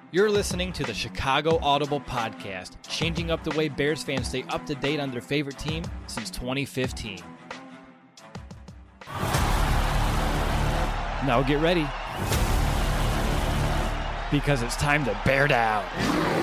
You're listening to the Chicago Audible Podcast, changing up the way Bears fans stay up to date on their favorite team since 2015. Now get ready, because it's time to bear down.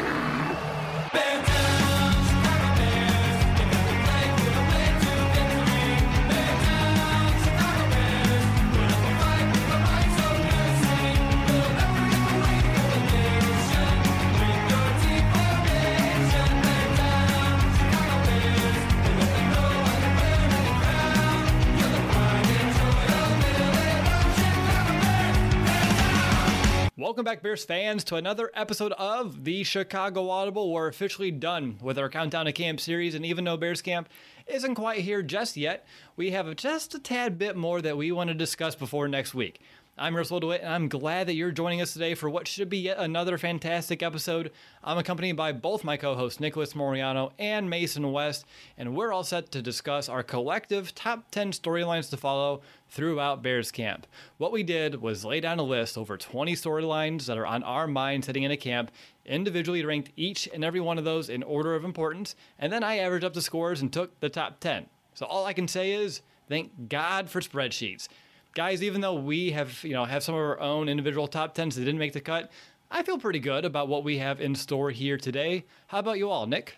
Welcome back, Bears fans, to another episode of the Chicago Audible. We're officially done with our Countdown to Camp series, and even though Bears Camp isn't quite here just yet, we have just a tad bit more that we want to discuss before next week. I'm Russell DeWitt, and I'm glad that you're joining us today for what should be yet another fantastic episode. I'm accompanied by both my co-hosts, Nicholas Moriano and Mason West, and we're all set to discuss our collective top 10 storylines to follow throughout Bears Camp. What we did was lay down a list over 20 storylines that are on our minds heading into camp, individually ranked each and every one of those in order of importance, and then I averaged up the scores and took the top 10. So all I can say is, thank God for spreadsheets. Guys, even though we have some of our own individual top 10s that didn't make the cut, I feel pretty good about what we have in store here today. How about you all, Nick?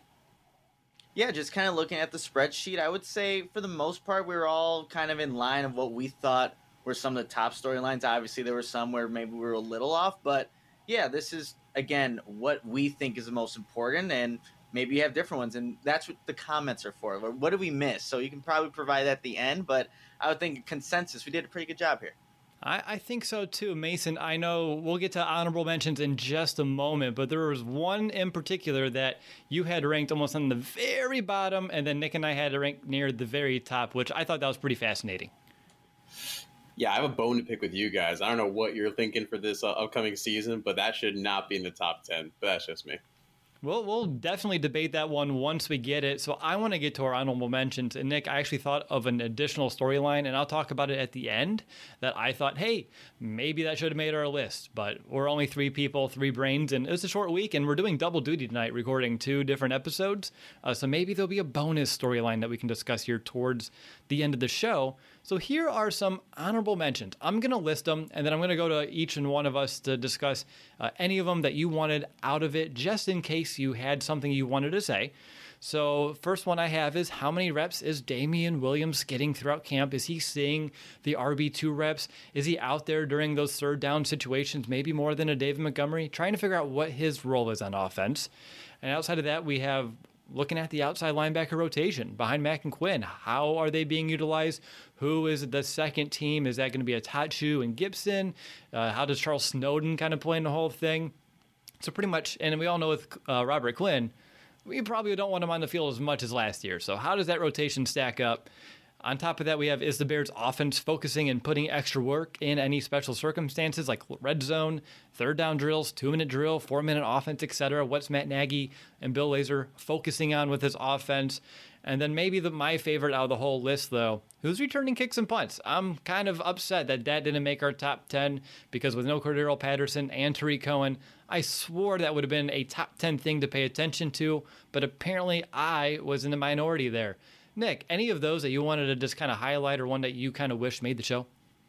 Yeah, just kind of looking at the spreadsheet, I would say for the most part we were all kind of in line of what we thought were some of the top storylines. Obviously, there were some where maybe we were a little off, but yeah, this is, again, what we think is the most important, and maybe you have different ones, and that's what the comments are for. What did we miss? So you can probably provide that at the end, but I would think consensus, we did a pretty good job here. I think so too, Mason. I know we'll get to honorable mentions in just a moment, but there was one in particular that you had ranked almost on the very bottom, and then Nick and I had to rank near the very top, which I thought that was pretty fascinating. Yeah, I have a bone to pick with you guys. I don't know what you're thinking for this upcoming season, but that should not be in the top 10. But that's just me. We'll definitely debate that one once we get it. So I want to get to our honorable mentions. And Nick, I actually thought of an additional storyline, and I'll talk about it at the end, that I thought, hey, maybe that should have made our list. But we're only three people, three brains, and it's a short week, and we're doing double duty tonight, recording two different episodes. So maybe there'll be a bonus storyline that we can discuss here towards the end of the show. So here are some honorable mentions. I'm going to list them, and then I'm going to go to each and one of us to discuss any of them that you wanted out of it, just in case you had something you wanted to say. So first one I have is, how many reps is Damian Williams getting throughout camp? Is he seeing the RB2 reps? Is he out there during those third down situations, maybe more than a David Montgomery? Trying to figure out what his role is on offense. And outside of that, we have looking at the outside linebacker rotation behind Mack and Quinn. How are they being utilized? Who is the second team? Is that going to be a Tachu and Gibson? How does Charles Snowden kind of play in the whole thing? So pretty much, and we all know with Robert Quinn, we probably don't want him on the field as much as last year. So how does that rotation stack up? On top of that, we have, is the Bears offense focusing and putting extra work in any special circumstances like red zone, third down drills, 2-minute drill, 4-minute offense, etc.? What's Matt Nagy and Bill Lazor focusing on with his offense? And then maybe my favorite out of the whole list, though, who's returning kicks and punts? I'm kind of upset that didn't make our top 10, because with no Cordero Patterson and Tariq Cohen, I swore that would have been a top 10 thing to pay attention to, but apparently I was in the minority there. Nick, any of those that you wanted to just kind of highlight, or one that you kind of wish made the show?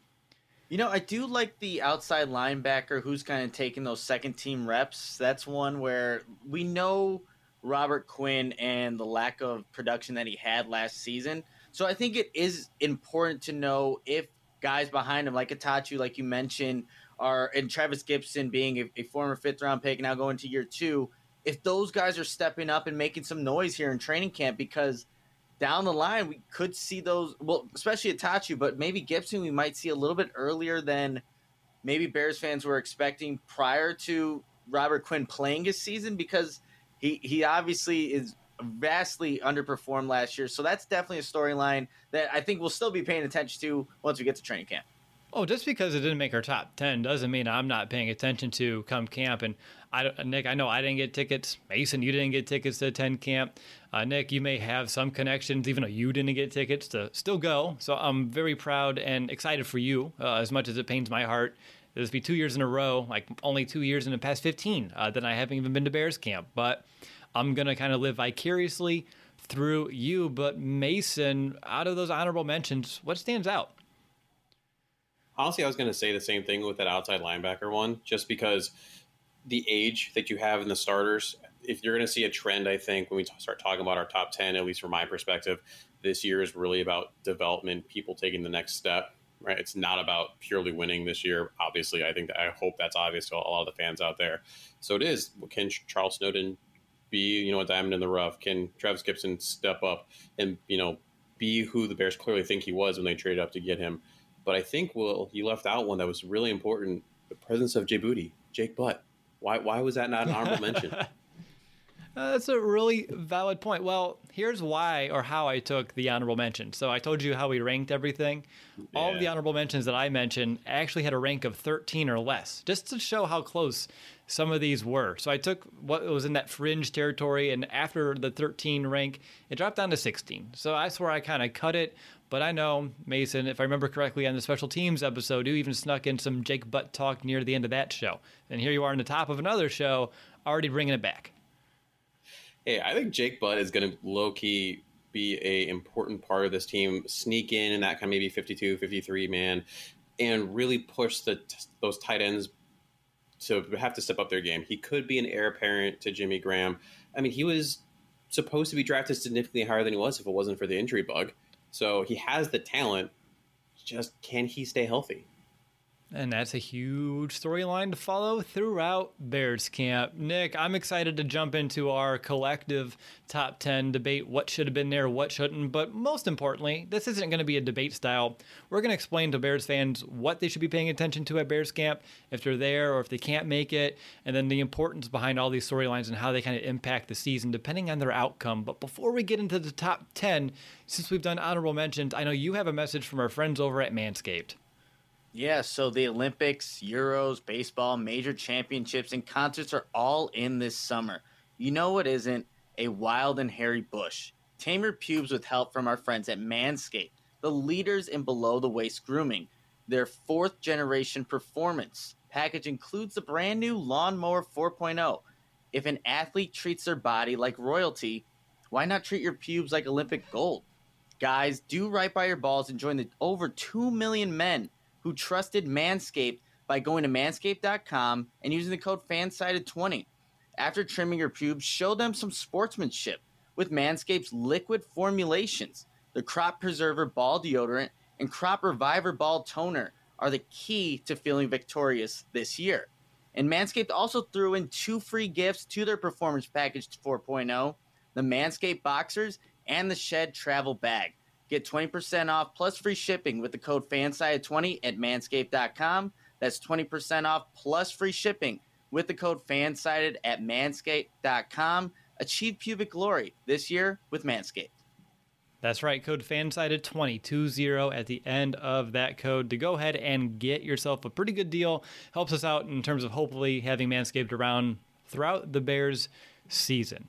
You know, I do like the outside linebacker who's kind of taking those second-team reps. That's one where we know Robert Quinn and the lack of production that he had last season. So I think it is important to know if guys behind him, like Atachu, like you mentioned, and Travis Gibson being a former fifth-round pick now going to year 2, if those guys are stepping up and making some noise here in training camp, because down the line, we could see those, well, especially Atachu, but maybe Gibson we might see a little bit earlier than maybe Bears fans were expecting prior to Robert Quinn playing his season, because he obviously is vastly underperformed last year. So that's definitely a storyline that I think we'll still be paying attention to once we get to training camp. Oh, just because it didn't make our top 10 doesn't mean I'm not paying attention to come camp. And Nick, I know I didn't get tickets. Mason, you didn't get tickets to attend camp. Nick, you may have some connections, even though you didn't get tickets, to still go. So I'm very proud and excited for you, as much as it pains my heart This will be 2 years in a row, like only 2 years in the past 15 that I haven't even been to Bears camp. But I'm going to kind of live vicariously through you. But Mason, out of those honorable mentions, what stands out? Honestly, I was going to say the same thing with that outside linebacker one, just because the age that you have in the starters, if you're going to see a trend, I think when we start talking about our top 10, at least from my perspective, this year is really about development, people taking the next step, right? It's not about purely winning this year. Obviously, I hope that's obvious to a lot of the fans out there. So it is, can Charles Snowden be, a diamond in the rough? Can Travis Gibson step up and, be who the Bears clearly think he was when they traded up to get him? But I think, Will, you left out one that was really important, the presence of Jake Butt. Why was that not an honorable mention? That's a really valid point. Well, here's why or how I took the honorable mention. So I told you how we ranked everything. Yeah. All of the honorable mentions that I mentioned actually had a rank of 13 or less, just to show how close some of these were. So I took what was in that fringe territory, and after the 13 rank, it dropped down to 16. So that's where I kind of cut it. But I know, Mason, if I remember correctly, on the special teams episode, you even snuck in some Jake Butt talk near the end of that show. And here you are in the top of another show, already bringing it back. Hey, I think Jake Butt is going to low-key be a important part of this team, sneak in that kind of maybe 52, 53 man, and really push those tight ends to have to step up their game. He could be an heir apparent to Jimmy Graham. I mean, he was supposed to be drafted significantly higher than he was if it wasn't for the injury bug. So he has the talent, just can he stay healthy? And that's a huge storyline to follow throughout Bears camp. Nick, I'm excited to jump into our collective top 10 debate, what should have been there, what shouldn't. But most importantly, this isn't going to be a debate style. We're going to explain to Bears fans what they should be paying attention to at Bears camp, if they're there or if they can't make it, and then the importance behind all these storylines and how they kind of impact the season depending on their outcome. But before we get into the top 10, since we've done honorable mentions, I know you have a message from our friends over at Manscaped. Yeah, so the Olympics, Euros, baseball, major championships, and concerts are all in this summer. You know what isn't? A wild and hairy bush. Tame your pubes with help from our friends at Manscaped, the leaders in below-the-waist grooming. Their fourth-generation performance package includes the brand-new Lawnmower 4.0. If an athlete treats their body like royalty, why not treat your pubes like Olympic gold? Guys, do right by your balls and join the over 2 million men who trusted Manscaped by going to manscaped.com and using the code FANSIDED20. After trimming your pubes, show them some sportsmanship with Manscaped's liquid formulations. The Crop Preserver Ball Deodorant and Crop Reviver Ball Toner are the key to feeling victorious this year. And Manscaped also threw in 2 free gifts to their Performance Package 4.0, the Manscaped Boxers and the Shed Travel Bag. Get 20% off plus free shipping with the code FANSIDED20 at manscaped.com. That's 20% off plus free shipping with the code FANSIDED at manscaped.com. Achieve pubic glory this year with Manscaped. That's right, code FANSIDED20 at the end of that code to go ahead and get yourself a pretty good deal. Helps us out in terms of hopefully having Manscaped around throughout the Bears season.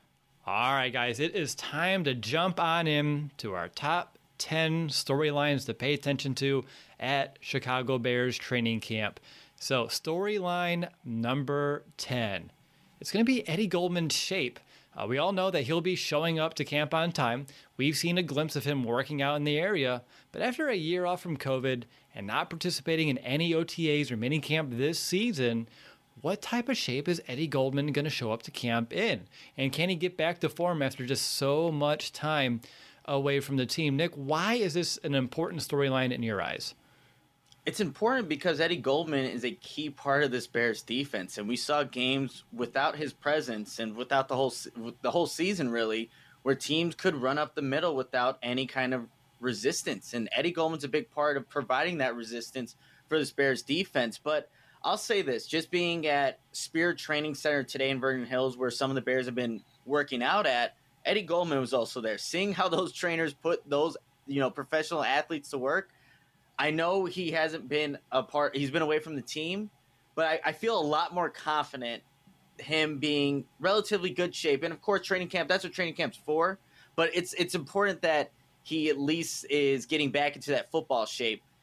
All right, guys, it is time to jump on in to our top 10 storylines to pay attention to at Chicago Bears training camp. So storyline number 10. It's going to be Eddie Goldman's shape. We all know that he'll be showing up to camp on time. We've seen a glimpse of him working out in the area. But after a year off from COVID and not participating in any OTAs or minicamp this season, what type of shape is Eddie Goldman going to show up to camp in? And can he get back to form after just so much time away from the team? Nick, why is this an important storyline in your eyes? It's important because Eddie Goldman is a key part of this Bears defense, and we saw games without his presence and without the whole season really, where teams could run up the middle without any kind of resistance. And Eddie Goldman's a big part of providing that resistance for this Bears defense. But I'll say this, just being at Spirit Training Center today in Vernon Hills, where some of the Bears have been working out at, Eddie Goldman was also there. Seeing how those trainers put those, professional athletes to work, I know he hasn't been he's been away from the team, but I feel a lot more confident him being relatively good shape. And of course, training camp, that's what training camp's for. But it's important that he at least is getting back into that football shape.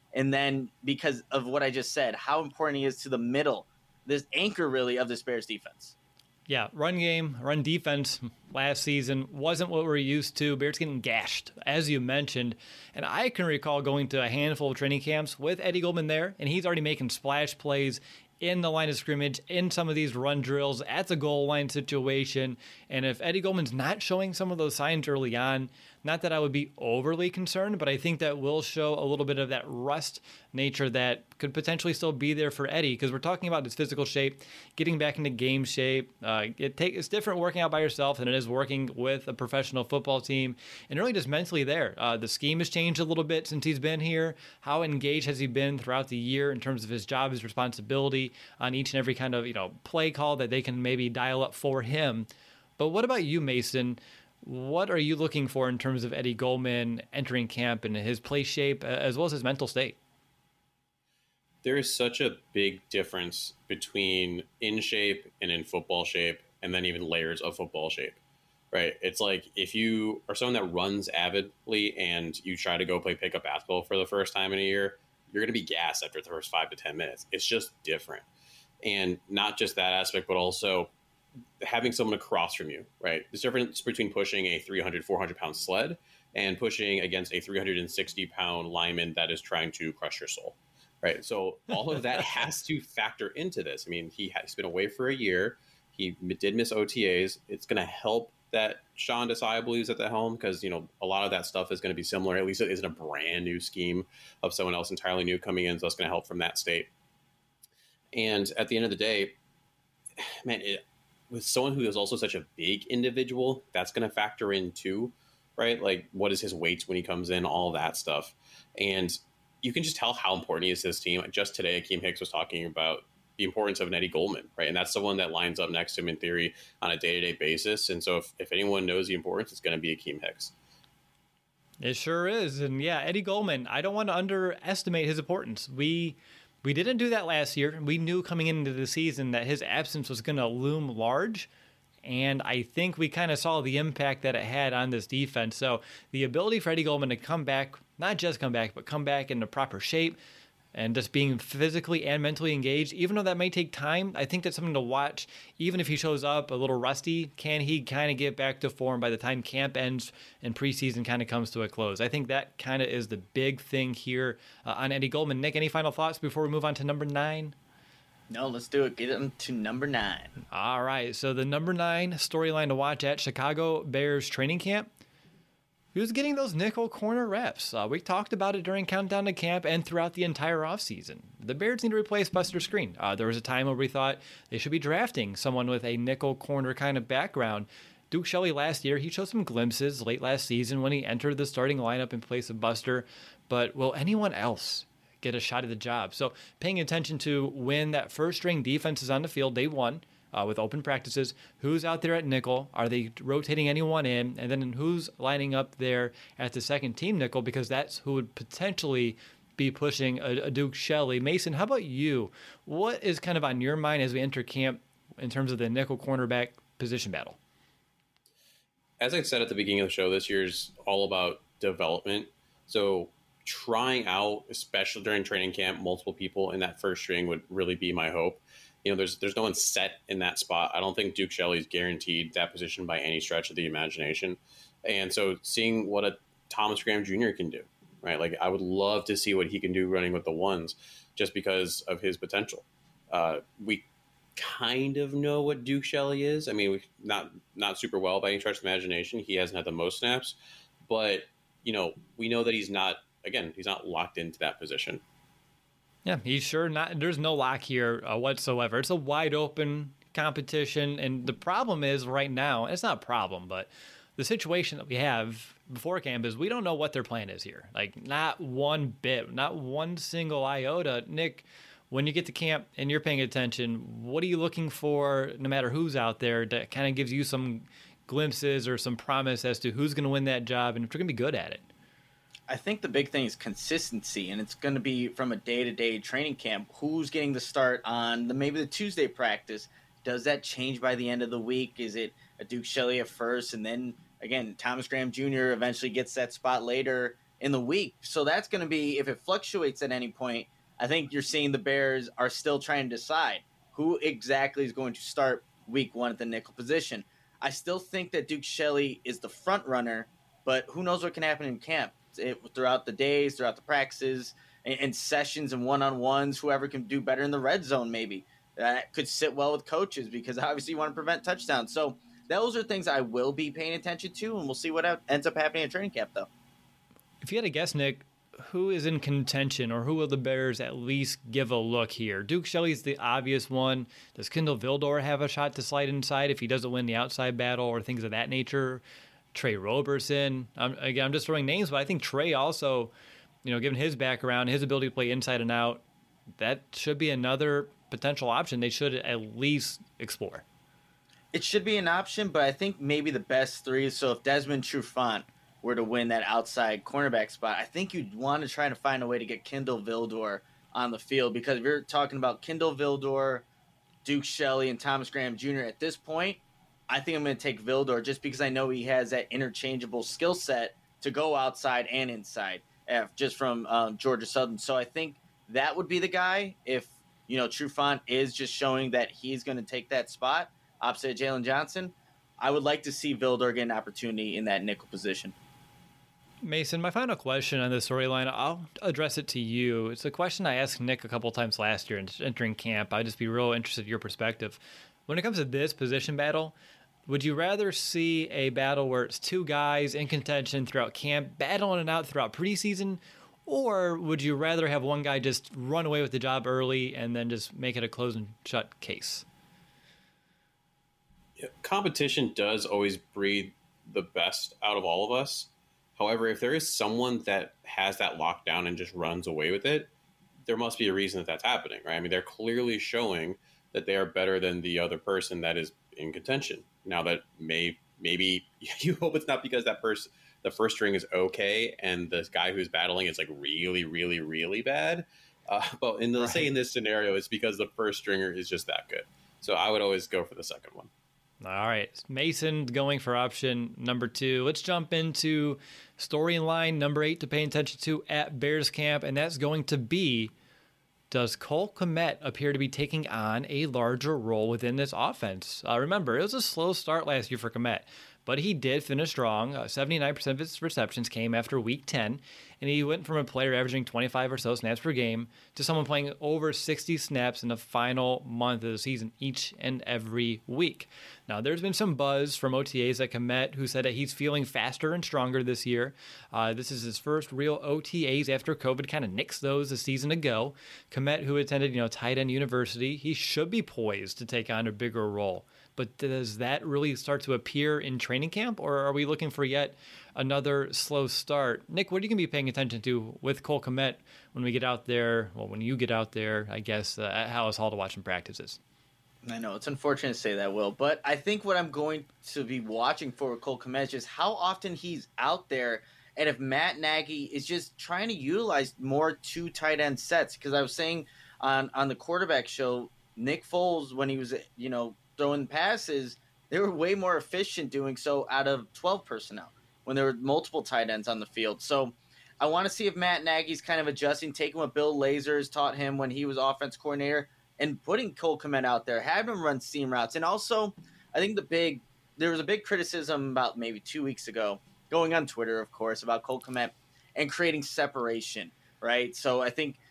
And then because of what I just said, how important he is to the middle, this anchor really of this Bears defense. Yeah, run game, run defense last season wasn't what we're used to. Bears getting gashed, as you mentioned. And I can recall going to a handful of training camps with Eddie Goldman there, and he's already making splash plays in the line of scrimmage, in some of these run drills, at the goal line situation. And if Eddie Goldman's not showing some of those signs early on, not that I would be overly concerned, but I think that will show a little bit of that rust nature that could potentially still be there for Eddie, because we're talking about his physical shape, getting back into game shape. It's different working out by yourself than it is working with a professional football team, and really just mentally there. The scheme has changed a little bit since he's been here. How engaged has he been throughout the year in terms of his job, his responsibility on each and every kind of play call that they can maybe dial up for him? But what about you, Mason? What are you looking for in terms of Eddie Goldman entering camp and his play shape as well as his mental state? There is such a big difference between in shape and in football shape, and then even layers of football shape, right? It's like if you are someone that runs avidly and you try to go play pickup basketball for the first time in a year, you're going to be gassed after the first 5 to 10 minutes. It's just different. And not just that aspect, but also having someone across from you, right? There's a difference between pushing a 300, 400-pound sled and pushing against a 360-pound lineman that is trying to crush your soul, right? So all of that has to factor into this. I mean, he's been away for a year. He did miss OTAs. It's going to help that Sean Desai, I believe, is at the helm, because, a lot of that stuff is going to be similar. At least it isn't a brand new scheme of someone else entirely new coming in, so that's going to help from that state. And at the end of the day, man, with someone who is also such a big individual, that's going to factor in too, right? Like, what is his weight when he comes in, all that stuff. And you can just tell how important he is to this team. Just today, Akeem Hicks was talking about the importance of an Eddie Goldman, right? And that's someone that lines up next to him in theory on a day-to-day basis. And so if anyone knows the importance, it's going to be Akeem Hicks. It sure is. And yeah, Eddie Goldman, I don't want to underestimate his importance. We didn't do that last year. We knew coming into the season that his absence was going to loom large. And I think we kind of saw the impact that it had on this defense. So the ability for Eddie Goldman to come back, not just come back, but come back in the proper shape and just being physically and mentally engaged, even though that may take time, I think that's something to watch. Even if he shows up a little rusty, can he kind of get back to form by the time camp ends and preseason kind of comes to a close? I think that kind of is the big thing here on Eddie Goldman. Nick, any final thoughts before we move on to number 9? No, let's do it. Get him to number 9. All right, so the number 9 storyline to watch at Chicago Bears training camp. Who's getting those nickel corner reps? We talked about it during Countdown to Camp and throughout the entire offseason. The Bears need to replace Buster Skrine. There was a time where we thought they should be drafting someone with a nickel corner kind of background. Duke Shelley last year, he showed some glimpses late last season when he entered the starting lineup in place of Buster. But will anyone else get a shot at the job? So paying attention to when that first string defense is on the field day one, with open practices, who's out there at nickel? Are they rotating anyone in? And then who's lining up there at the second team nickel? Because that's who would potentially be pushing a Duke Shelley. Mason, how about you? What is kind of on your mind as we enter camp in terms of the nickel cornerback position battle? As I said at the beginning of the show, this year's all about development. So trying out, especially during training camp, multiple people in that first string would really be my hope. There's no one set in that spot. I don't think Duke Shelley's guaranteed that position by any stretch of the imagination. And so seeing what a Thomas Graham Jr. can do, right? Like, I would love to see what he can do running with the ones just because of his potential. We kind of know what Duke Shelley is. I mean, not super well by any stretch of the imagination. He hasn't had the most snaps, but we know that he's not locked into that position. Yeah, he's sure not. There's no lock here whatsoever. It's a wide open competition. And the problem is right now, it's not a problem, but the situation that we have before camp is we don't know what their plan is here. Like, not one bit, not one single iota. Nick, when you get to camp and you're paying attention, what are you looking for, no matter who's out there, that kind of gives you some glimpses or some promise as to who's going to win that job and if they're going to be good at it? I think the big thing is consistency, and it's going to be from a day-to-day training camp. Who's getting the start on maybe the Tuesday practice? Does that change by the end of the week? Is it a Duke Shelley at first, and then, again, Thomas Graham Jr. eventually gets that spot later? in the week. So that's going to be, if it fluctuates at any point, I think you're seeing the Bears are still trying to decide who exactly is going to start week 1 at the nickel position. I still think that Duke Shelley is the front runner, but who knows what can happen in camp throughout the days, throughout the practices, and sessions and one-on-ones, whoever can do better in the red zone maybe. That could sit well with coaches because obviously you want to prevent touchdowns. So those are things I will be paying attention to, and we'll see what ends up happening at training camp, though. If you had to guess, Nick, who is in contention, or who will the Bears at least give a look here? Duke Shelley's the obvious one. Does Kindle Vildor have a shot to slide inside if he doesn't win the outside battle or things of that nature? Trey Roberson. Again, I'm just throwing names, but I think Trey also, given his background, his ability to play inside and out, that should be another potential option they should at least explore. It should be an option, but I think maybe the best three. So if Desmond Trufant were to win that outside cornerback spot, I think you'd want to try to find a way to get Kindle Vildor on the field, because if you're talking about Kindle Vildor, Duke Shelley, and Thomas Graham Jr. at this point, I think I'm going to take Vildor just because I know he has that interchangeable skill set to go outside and inside, just from Georgia Southern. So I think that would be the guy if, Trufant is just showing that he's going to take that spot opposite Jalen Johnson. I would like to see Vildor get an opportunity in that nickel position. Mason, my final question on this storyline, I'll address it to you. It's a question I asked Nick a couple times last year entering camp. I'd just be real interested in your perspective. When it comes to this position battle, would you rather see a battle where it's two guys in contention throughout camp, battling it out throughout preseason, or would you rather have one guy just run away with the job early and then just make it a close and shut case? Yeah, competition does always breed the best out of all of us. However, if there is someone that has that lockdown and just runs away with it, there must be a reason that that's happening, right? I mean, they're clearly showing that they are better than the other person that is in contention. Now that maybe you hope it's not because that person, the first string is okay, and the guy who's battling is like really, really, really bad. But in this scenario, it's because the first stringer is just that good. So I would always go for the second one. All right, Mason going for option number 2. Let's jump into storyline number 8 to pay attention to at Bears camp, and that's going to be, does Cole Kmet appear to be taking on a larger role within this offense? Remember, it was a slow start last year for Kmet, but he did finish strong. 79% of his receptions came after week 10, and he went from a player averaging 25 or so snaps per game to someone playing over 60 snaps in the final month of the season each and every week. Now, there's been some buzz from OTAs at Kmet, who said that he's feeling faster and stronger this year. This is his first real OTAs after COVID kind of nixed those a season ago. Kmet, who attended, tight end university, he should be poised to take on a bigger role. But does that really start to appear in training camp, or are we looking for yet another slow start? Nick, what are you going to be paying attention to with Cole Kmet when we get out there? Well, when you get out there, I guess, at Hallis Hall to watch some practices. I know it's unfortunate to say that, Will, but I think what I'm going to be watching for with Cole Kmet is just how often he's out there, and if Matt Nagy is just trying to utilize more 2 tight end sets. Because I was saying on the quarterback show, Nick Foles, when he was throwing passes, they were way more efficient doing so out of 12 personnel when there were multiple tight ends on the field. So I want to see if Matt Nagy's kind of adjusting, taking what Bill Lazor has taught him when he was offense coordinator, and putting Cole Kmet out there, having him run seam routes. And also, I think there was a big criticism about maybe 2 weeks ago, going on Twitter, of course, about Cole Kmet and creating separation, right? So I think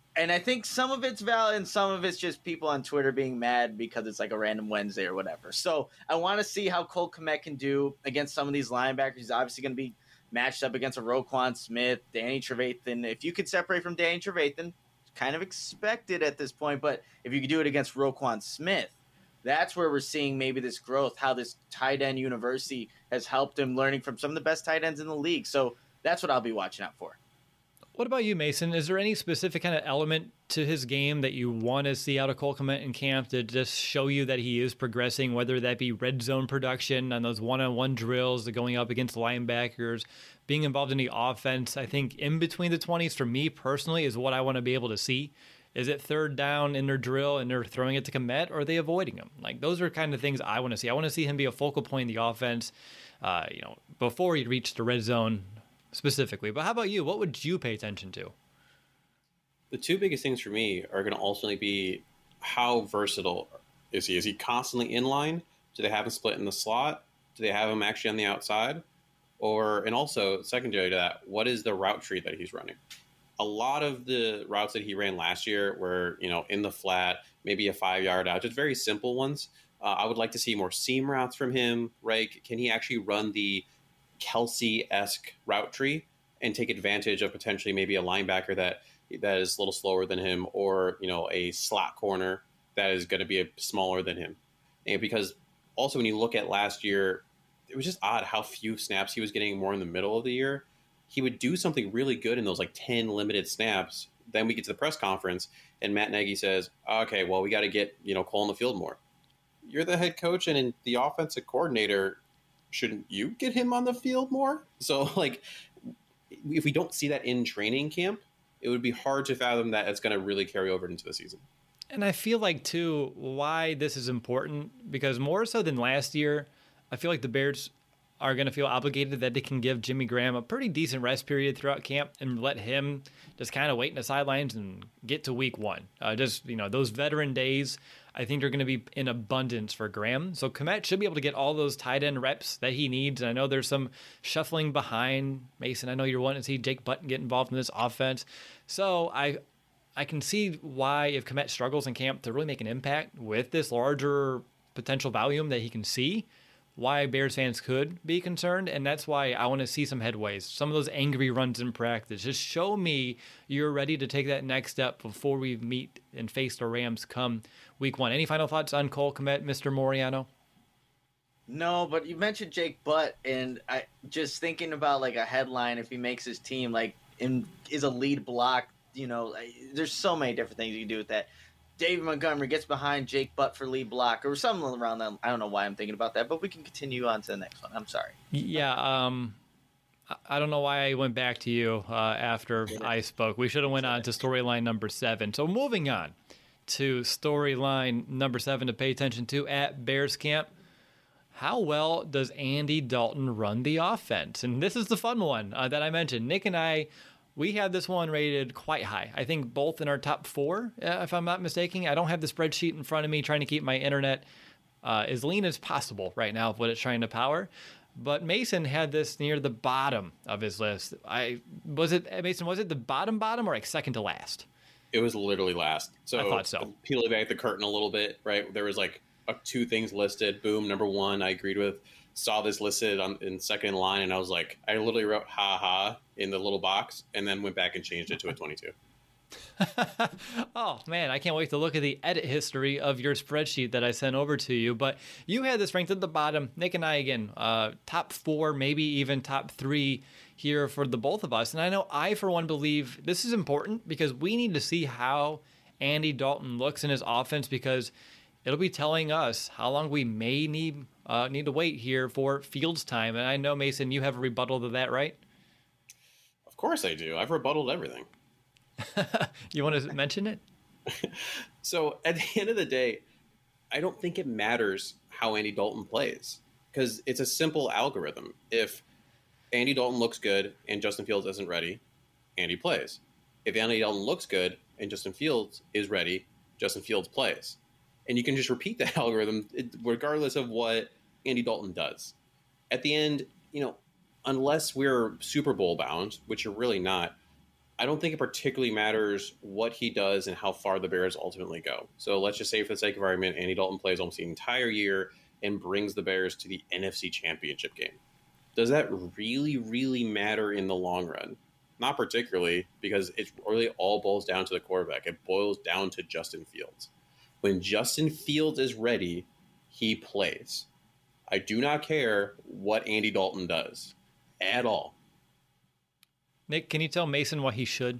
some of it's valid and some of it's just people on Twitter being mad because it's like a random Wednesday or whatever. So I want to see how Cole Kmet can do against some of these linebackers. He's obviously going to be matched up against a Roquan Smith, Danny Trevathan. If you could separate from Danny Trevathan, kind of expected at this point, but if you could do it against Roquan Smith, that's where we're seeing maybe this growth, how this tight end university has helped him learning from some of the best tight ends in the league. So that's what I'll be watching out for. What about you, Mason? Is there any specific kind of element to his game that you want to see out of Cole Kmet in camp to just show you that he is progressing, whether that be red zone production on those one-on-one drills, the going up against linebackers, being involved in the offense? I think in between the 20s, for me personally, is what I want to be able to see. Is it third down in their drill and they're throwing it to Kmet, or are they avoiding him? Like, those are kind of things I want to see. I want to see him be a focal point in the offense, before he reached the red zone, specifically. But how about you? What would you pay attention to? The two biggest things for me are going to ultimately be how versatile is he? Is he constantly in line? Do they have him split in the slot? Do they have him actually on the outside? And also, secondary to that, what is the route tree that he's running? A lot of the routes that he ran last year were, in the flat, maybe a 5-yard out, just very simple ones. I would like to see more seam routes from him, right? Can he actually run the Kelsey-esque route tree and take advantage of potentially maybe a linebacker that is a little slower than him, or, a slot corner that is going to be smaller than him? And because also when you look at last year, it was just odd how few snaps he was getting more in the middle of the year. He would do something really good in those 10 limited snaps. Then we get to the press conference and Matt Nagy says, okay, well, we got to get, Cole on the field more. You're the head coach and the offensive coordinator. Shouldn't you get him on the field more? So if we don't see that in training camp, it would be hard to fathom that it's going to really carry over into the season. And I feel like, too, why this is important, because more so than last year, I feel like the Bears are going to feel obligated that they can give Jimmy Graham a pretty decent rest period throughout camp and let him just kind of wait in the sidelines and get to week one. Those veteran days, I think are going to be in abundance for Graham. So Kmet should be able to get all those tight end reps that he needs. And I know there's some shuffling behind Mason. I know you're wanting to see Jake Button get involved in this offense. So I can see why, if Kmet struggles in camp to really make an impact with this larger potential volume that he can see, why Bears fans could be concerned. And that's why I want to see some headways, some of those angry runs in practice. Just show me you're ready to take that next step before we meet and face the Rams come week one. Any final thoughts on Cole Kmet, Mr. Moriano? No, but you mentioned Jake Butt, and I just thinking about a headline if he makes his team, is a lead block. There's so many different things you can do with that. David Montgomery gets behind Jake Butt for lead block or something around that. I don't know why I'm thinking about that, but we can continue on to the next one. I'm sorry. Yeah, I don't know why I went back to you after I spoke. We should have went on to storyline number 7. So moving on to storyline number 7 to pay attention to at Bears camp. How well does Andy Dalton run the offense? And this is the fun one that I mentioned. Nick and I, we had this one rated quite high. I think both in our top 4, if I'm not mistaken. I don't have the spreadsheet in front of me, trying to keep my internet as lean as possible right now of what it's trying to power. But Mason had this near the bottom of his list. Was it the bottom or second to last? It was literally last. So I thought so. Peeling back the curtain a little bit, right? There was 2 things listed. Boom, number 1, I agreed with. Saw this listed in second in line, and I was like, I literally wrote "ha ha" in the little box, and then went back and changed it to a 22. Oh man, I can't wait to look at the edit history of your spreadsheet that I sent over to you. But you had this ranked at the bottom. Nick and I, again, top 4, maybe even top 3 here for the both of us. And I know I, for one, believe this is important because we need to see how Andy Dalton looks in his offense, because it'll be telling us how long we may need to wait here for Fields time. And I know, Mason, you have a rebuttal to that, right? Of course I do. I've rebutted everything. You want to mention it? So at the end of the day, I don't think it matters how Andy Dalton plays, because it's a simple algorithm. If Andy Dalton looks good and Justin Fields isn't ready, Andy plays. If Andy Dalton looks good and Justin Fields is ready, Justin Fields plays. And you can just repeat that algorithm regardless of what Andy Dalton does. At the end, unless we're Super Bowl bound, which you're really not, I don't think it particularly matters what he does and how far the Bears ultimately go. So let's just say, for the sake of argument, Andy Dalton plays almost the entire year and brings the Bears to the NFC Championship game. Does that really, really matter in the long run? Not particularly, because it really all boils down to the quarterback. It boils down to Justin Fields. When Justin Fields is ready, he plays. I do not care what Andy Dalton does at all. Nick, can you tell Mason why he should?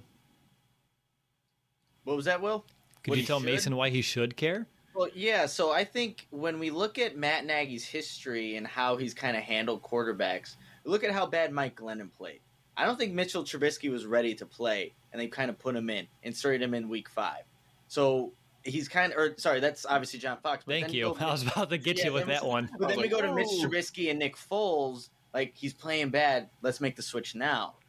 What was that, Will? Could you tell Mason why he should care? Well, yeah, so I think when we look at Matt Nagy's history and how he's kind of handled quarterbacks, look at how bad Mike Glennon played. I don't think Mitchell Trubisky was ready to play, and they kind of put him in, inserted him in week 5. So he's that's obviously John Fox. But Thank you. I was about to get you with that one. But then we go to Mitch Trubisky and Nick Foles, he's playing bad. Let's make the switch now.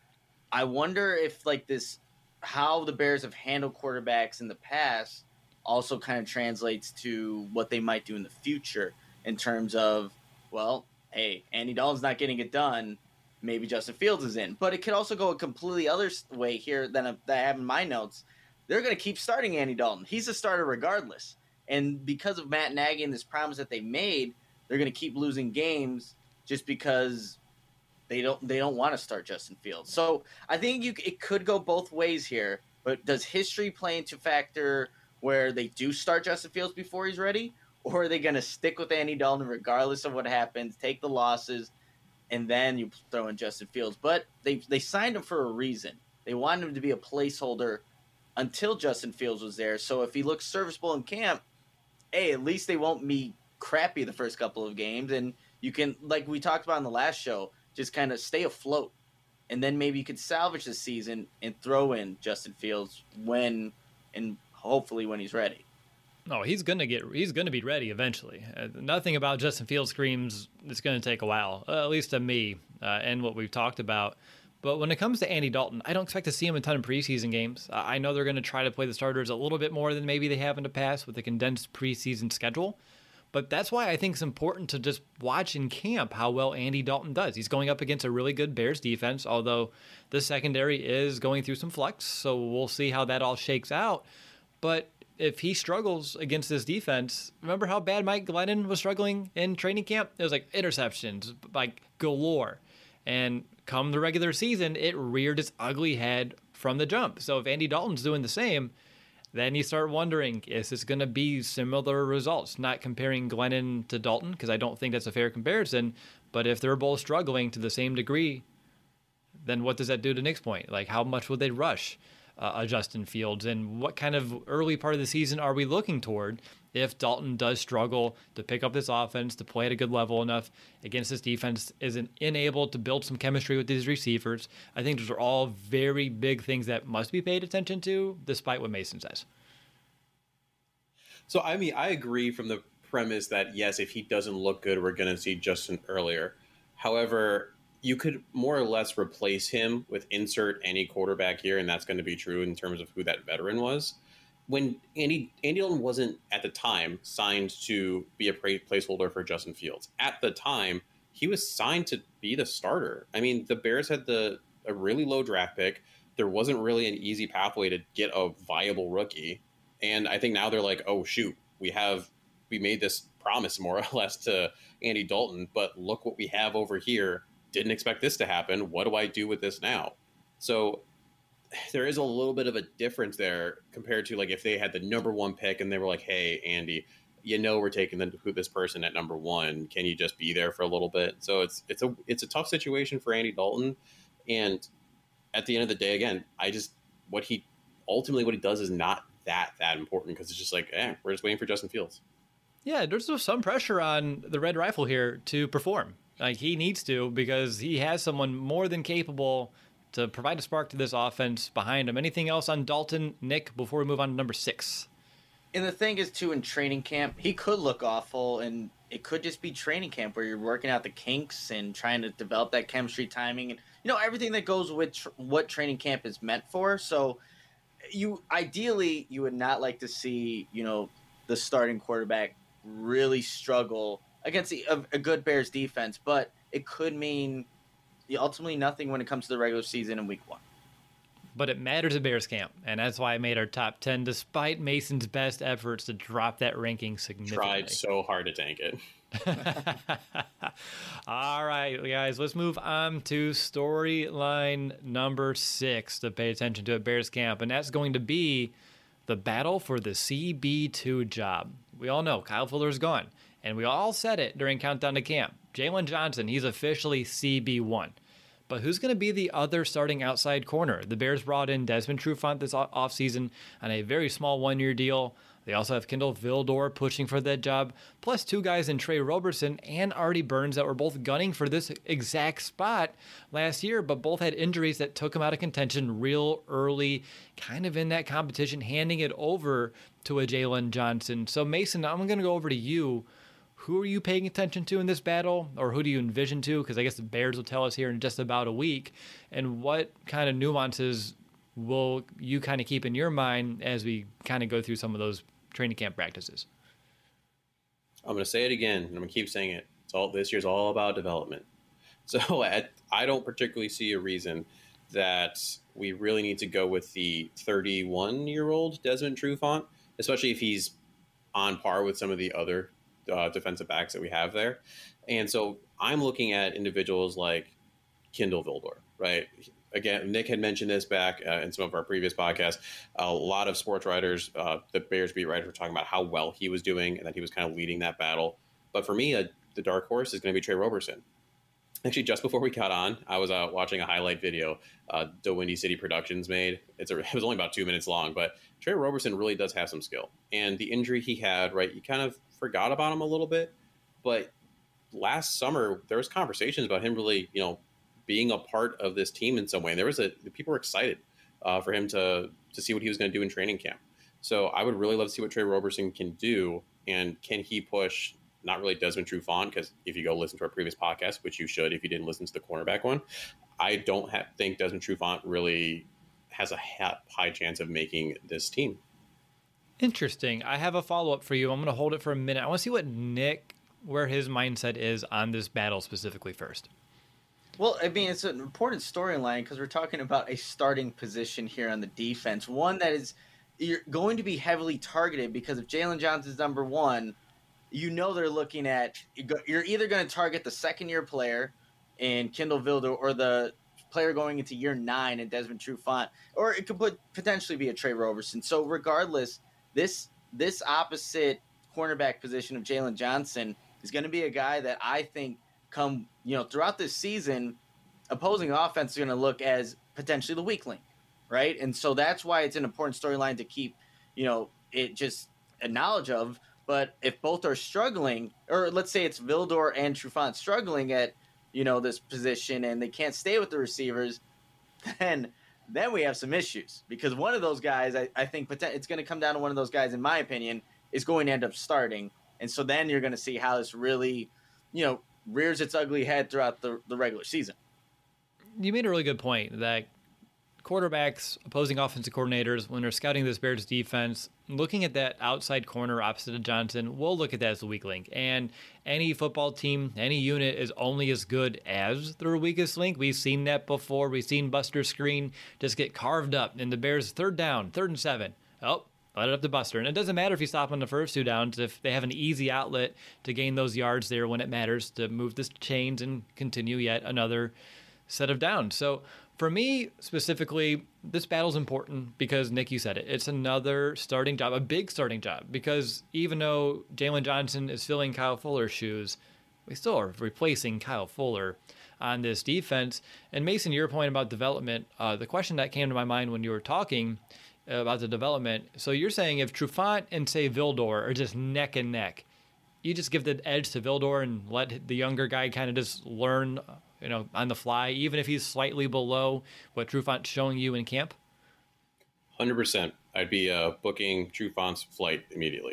I wonder if like this, how the Bears have handled quarterbacks in the past also kind of translates to what they might do in the future in terms of, well, hey, Andy Dalton's not getting it done. Maybe Justin Fields is in. But it could also go a completely other way here than I have in my notes. They're going to keep starting Andy Dalton. He's a starter regardless. And because of Matt Nagy and this promise that they made, they're going to keep losing games just because they don't want to start Justin Fields. So I think it could go both ways here. But does history play into factor where they do start Justin Fields before he's ready? Or are they going to stick with Andy Dalton regardless of what happens, take the losses, and then you throw in Justin Fields? But they signed him for a reason. They wanted him to be a placeholder until Justin Fields was there. So if he looks serviceable in camp, hey, at least they won't be crappy the first couple of games. And you can, like we talked about in the last show, just kind of stay afloat. And then maybe you could salvage the season and throw in Justin Fields when and hopefully when he's ready. No, he's gonna be ready eventually. Nothing about Justin Fields screams it's gonna take a while, at least to me, and what we've talked about. But when it comes to Andy Dalton, I don't expect to see him a ton of preseason games. I know they're going to try to play the starters a little bit more than maybe they have in the past with a condensed preseason schedule. But that's why I think it's important to just watch in camp how well Andy Dalton does. He's going up against a really good Bears defense, although the secondary is going through some flux. So we'll see how that all shakes out. But if he struggles against this defense, remember how bad Mike Glennon was struggling in training camp? It was like interceptions, like galore. And come the regular season, it reared its ugly head from the jump. So if Andy Dalton's doing the same, then you start wondering, is this going to be similar results? Not comparing Glennon to Dalton, because I don't think that's a fair comparison. But if they're both struggling to the same degree, then what does that do to Nick's point? Like, how much would they rush Justin Fields? And what kind of early part of the season are we looking toward if Dalton does struggle to pick up this offense, to play at a good level enough against this defense, isn't unable to build some chemistry with these receivers? I think those are all very big things that must be paid attention to, despite what Mason says. So, I mean, I agree from the premise that, yes, if he doesn't look good, we're going to see Justin earlier. However, you could more or less replace him with insert any quarterback here, and that's going to be true in terms of who that veteran was. When Andy Dalton wasn't, at the time, signed to be a placeholder for Justin Fields. At the time, he was signed to be the starter. I mean, the Bears had a really low draft pick. There wasn't really an easy pathway to get a viable rookie. And I think now they're like, oh, shoot, we made this promise more or less to Andy Dalton, but look what we have over here. Didn't expect this to happen. What do I do with this now? So there is a little bit of a difference there compared to like if they had the number one pick and they were like, hey, Andy, we're taking this person at number one. Can you just be there for a little bit? So it's a tough situation for Andy Dalton. And at the end of the day, again, what he does is not that important because it's just like, we're just waiting for Justin Fields. Yeah, there's some pressure on the Red Rifle here to perform. Like he needs to, because he has someone more than capable to provide a spark to this offense behind him. Anything else on Dalton, Nick, before we move on to number 6? And the thing is, too, in training camp, he could look awful, and it could just be training camp where you're working out the kinks and trying to develop that chemistry, timing, and everything that goes with what training camp is meant for. So ideally you would not like to see the starting quarterback really struggle against a good Bears defense, but it could mean ultimately nothing when it comes to the regular season in week 1. But it matters at Bears camp, and that's why I made our top 10, despite Mason's best efforts to drop that ranking significantly. Tried so hard to tank it. All right, guys, let's move on to storyline number 6 to pay attention to at Bears camp, and that's going to be the battle for the CB2 job. We all know Kyle Fuller's gone, and we all said it during Countdown to Camp. Jalen Johnson, he's officially CB1. But who's going to be the other starting outside corner? The Bears brought in Desmond Trufant this offseason on a very small one-year deal. They also have Kendall Vildor pushing for that job, plus 2 guys in Trey Roberson and Artie Burns that were both gunning for this exact spot last year, but both had injuries that took them out of contention real early, kind of in that competition, handing it over to a Jalen Johnson. So, Mason, I'm going to go over to you. who are you paying attention to in this battle, or who do you envision to? Because I guess the Bears will tell us here in just about a week. And what kind of nuances will you kind of keep in your mind as we kind of go through some of those training camp practices? I'm going to say it again, and I'm going to keep saying it. This year's all about development. So I don't particularly see a reason that we really need to go with the 31-year-old Desmond Trufant, especially if he's on par with some of the other defensive backs that we have there. And so I'm looking at individuals like Kindle Vildor, right? Again, Nick had mentioned this back in some of our previous podcasts. A lot of sports writers, the Bears beat writers, were talking about how well he was doing and that he was kind of leading that battle. But for me, the dark horse is going to be Trey Roberson. Actually, just before we got on, I was watching a highlight video the Windy City Productions made. It was only about 2 minutes long, but Trey Roberson really does have some skill. And the injury he had, right, you kind of forgot about him a little bit. But last summer, there was conversations about him really, being a part of this team in some way. And people were excited for him to see what he was going to do in training camp. So I would really love to see what Trey Roberson can do, and can he push not really Desmond Trufant, because if you go listen to our previous podcast, which you should if you didn't listen to the cornerback one, I don't think Desmond Trufant really has a high chance of making this team. Interesting. I have a follow-up for you. I'm going to hold it for a minute. I want to see what Nick, where his mindset is on this battle specifically first. Well, I mean, it's an important storyline because we're talking about a starting position here on the defense. One that is you're going to be heavily targeted because if Jaylon Johnson's number one, they're looking at you're either going to target the second-year player in Kindle Vildor or the player going into year 9 in Desmond Trufant, or it could potentially be a Trey Roberson. So regardless, this opposite cornerback position of Jaylon Johnson is going to be a guy that I think throughout this season, opposing offense is going to look as potentially the weak link, right? And so that's why it's an important storyline to keep, it just a knowledge of. But if both are struggling, or let's say it's Vildor and Trufant struggling at, this position and they can't stay with the receivers, then we have some issues. Because one of those guys, I think it's going to come down to one of those guys, in my opinion, is going to end up starting. And so then you're going to see how this really, rears its ugly head throughout the regular season. You made a really good point that quarterbacks, opposing offensive coordinators, when they're scouting this Bears defense, looking at that outside corner opposite of Johnson, we'll look at that as the weak link. And any football team, any unit is only as good as their weakest link. We've seen that before. We've seen Buster Screen just get carved up in the Bears' 3rd down, 3rd and 7. Oh, let it up to Buster. And it doesn't matter if you stop on the first 2 downs, if they have an easy outlet to gain those yards there when it matters to move the chains and continue yet another set of downs. So for me specifically, this battle's important because, Nick, you said it. It's another starting job, a big starting job, because even though Jaylon Johnson is filling Kyle Fuller's shoes, we still are replacing Kyle Fuller on this defense. And Mason, your point about development, the question that came to my mind when you were talking about the development. So you're saying if Trufant and, say, Vildor are just neck and neck, you just give the edge to Vildor and let the younger guy kind of just learn, on the fly, even if he's slightly below what Trufant's showing you in camp? 100%. I'd be booking Trufant's flight immediately.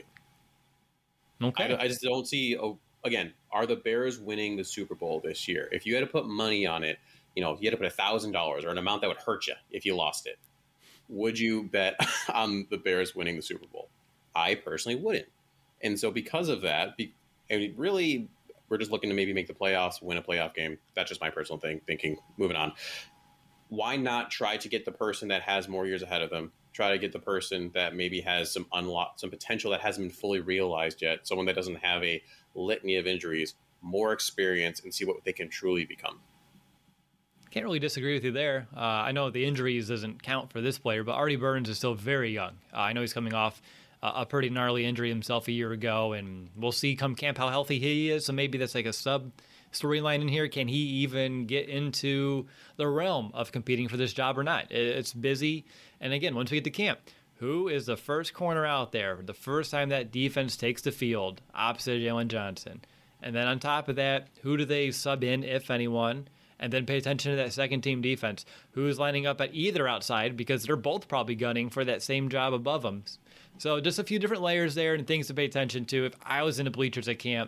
Okay. I just don't see, again, are the Bears winning the Super Bowl this year? If you had to put money on it, if you had to put $1,000 or an amount that would hurt you if you lost it, would you bet on the Bears winning the Super Bowl? I personally wouldn't. And so because of that, really, we're just looking to maybe make the playoffs, win a playoff game. That's just my personal thinking. Moving on. Why not try to get the person that has more years ahead of them? Try to get the person that maybe has some potential that hasn't been fully realized yet. Someone that doesn't have a litany of injuries, more experience, and see what they can truly become. Can't really disagree with you there. I know the injuries doesn't count for this player, but Artie Burns is still very young. I know he's coming off a pretty gnarly injury himself a year ago, and we'll see come camp how healthy he is. So maybe that's like a sub storyline in here. Can he even get into the realm of competing for this job or not? It's busy. And again, once we get to camp, who is the first corner out there the first time that defense takes the field opposite Jaylon Johnson? And then on top of that, who do they sub in, if anyone? And then pay attention to that second team defense. Who's lining up at either outside, because they're both probably gunning for that same job above them. So just a few different layers there and things to pay attention to. If I was in the bleachers at camp,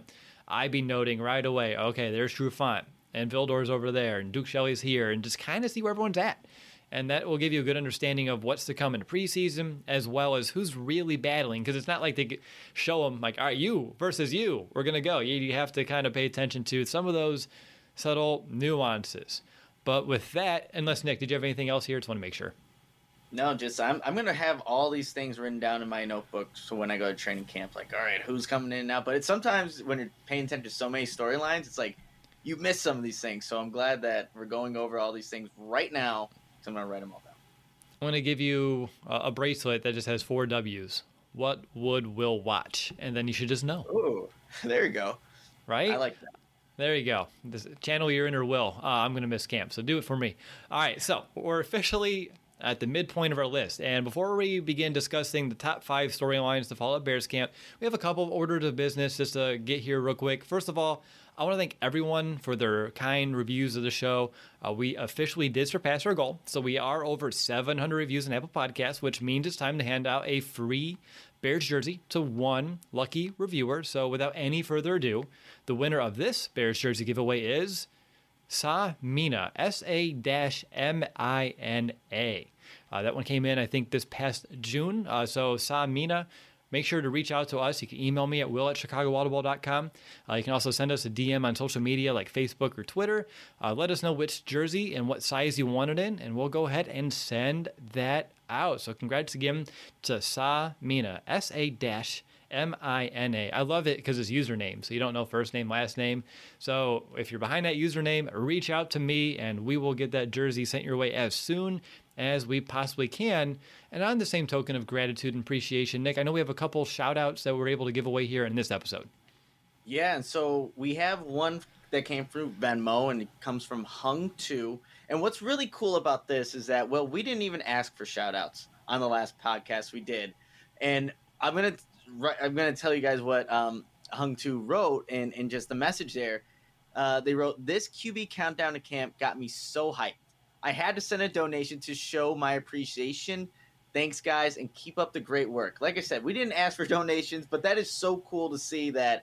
I'd be noting right away, okay, there's Trufant and Vildor's over there and Duke Shelley's here, and just kind of see where everyone's at. And that will give you a good understanding of what's to come in preseason, as well as who's really battling. Because it's not like they show them, like, all right, you versus you, we're going to go. You have to kind of pay attention to some of those subtle nuances. But with that, unless, Nick, did you have anything else here? Just want to make sure. No, just I'm going to have all these things written down in my notebook so when I go to training camp, like, all right, who's coming in now? But it's sometimes when you're paying attention to so many storylines, it's like you miss some of these things. So I'm glad that we're going over all these things right now. I'm going to write them all down. I'm going to give you a bracelet that just has 4 W's. What would Will watch? And then you should just know. Ooh, there you go. Right? I like that. There you go. Channel your inner Will. I'm going to miss camp, so do it for me. All right, so we're officially at the midpoint of our list. And before we begin discussing the top 5 storylines to follow at Bears camp, we have a couple of orders of business just to get here real quick. First of all, I want to thank everyone for their kind reviews of the show. We officially did surpass our goal. So we are over 700 reviews on Apple Podcasts, which means it's time to hand out a free Bears jersey to one lucky reviewer. So without any further ado, the winner of this Bears jersey giveaway is Sa-Mina, S-A-M-I-N-A. That one came in, I think, this past June. So Sa-Mina, make sure to reach out to us. You can email me at will@chicagoaudible.com. You can also send us a DM on social media like Facebook or Twitter. Let us know which jersey and what size you want it in, and we'll go ahead and send that out. So congrats again to Sa-Mina, S-A-M-I-N-A. I love it because it's username, so you don't know first name, last name. So if you're behind that username, reach out to me, and we will get that jersey sent your way as soon as we possibly can. And on the same token of gratitude and appreciation, Nick, I know we have a couple shout outs that we're able to give away here in this episode. Yeah, and so we have one that came through Venmo, and it comes from Hung2. And what's really cool about this is that, well, we didn't even ask for shout outs on the last podcast we did. And I'm gonna tell you guys what Hung2 wrote in just the message there. They wrote, "This QB countdown to camp got me so hyped. I had to send a donation to show my appreciation. Thanks, guys, and keep up the great work." Like I said, we didn't ask for donations, but that is so cool to see that,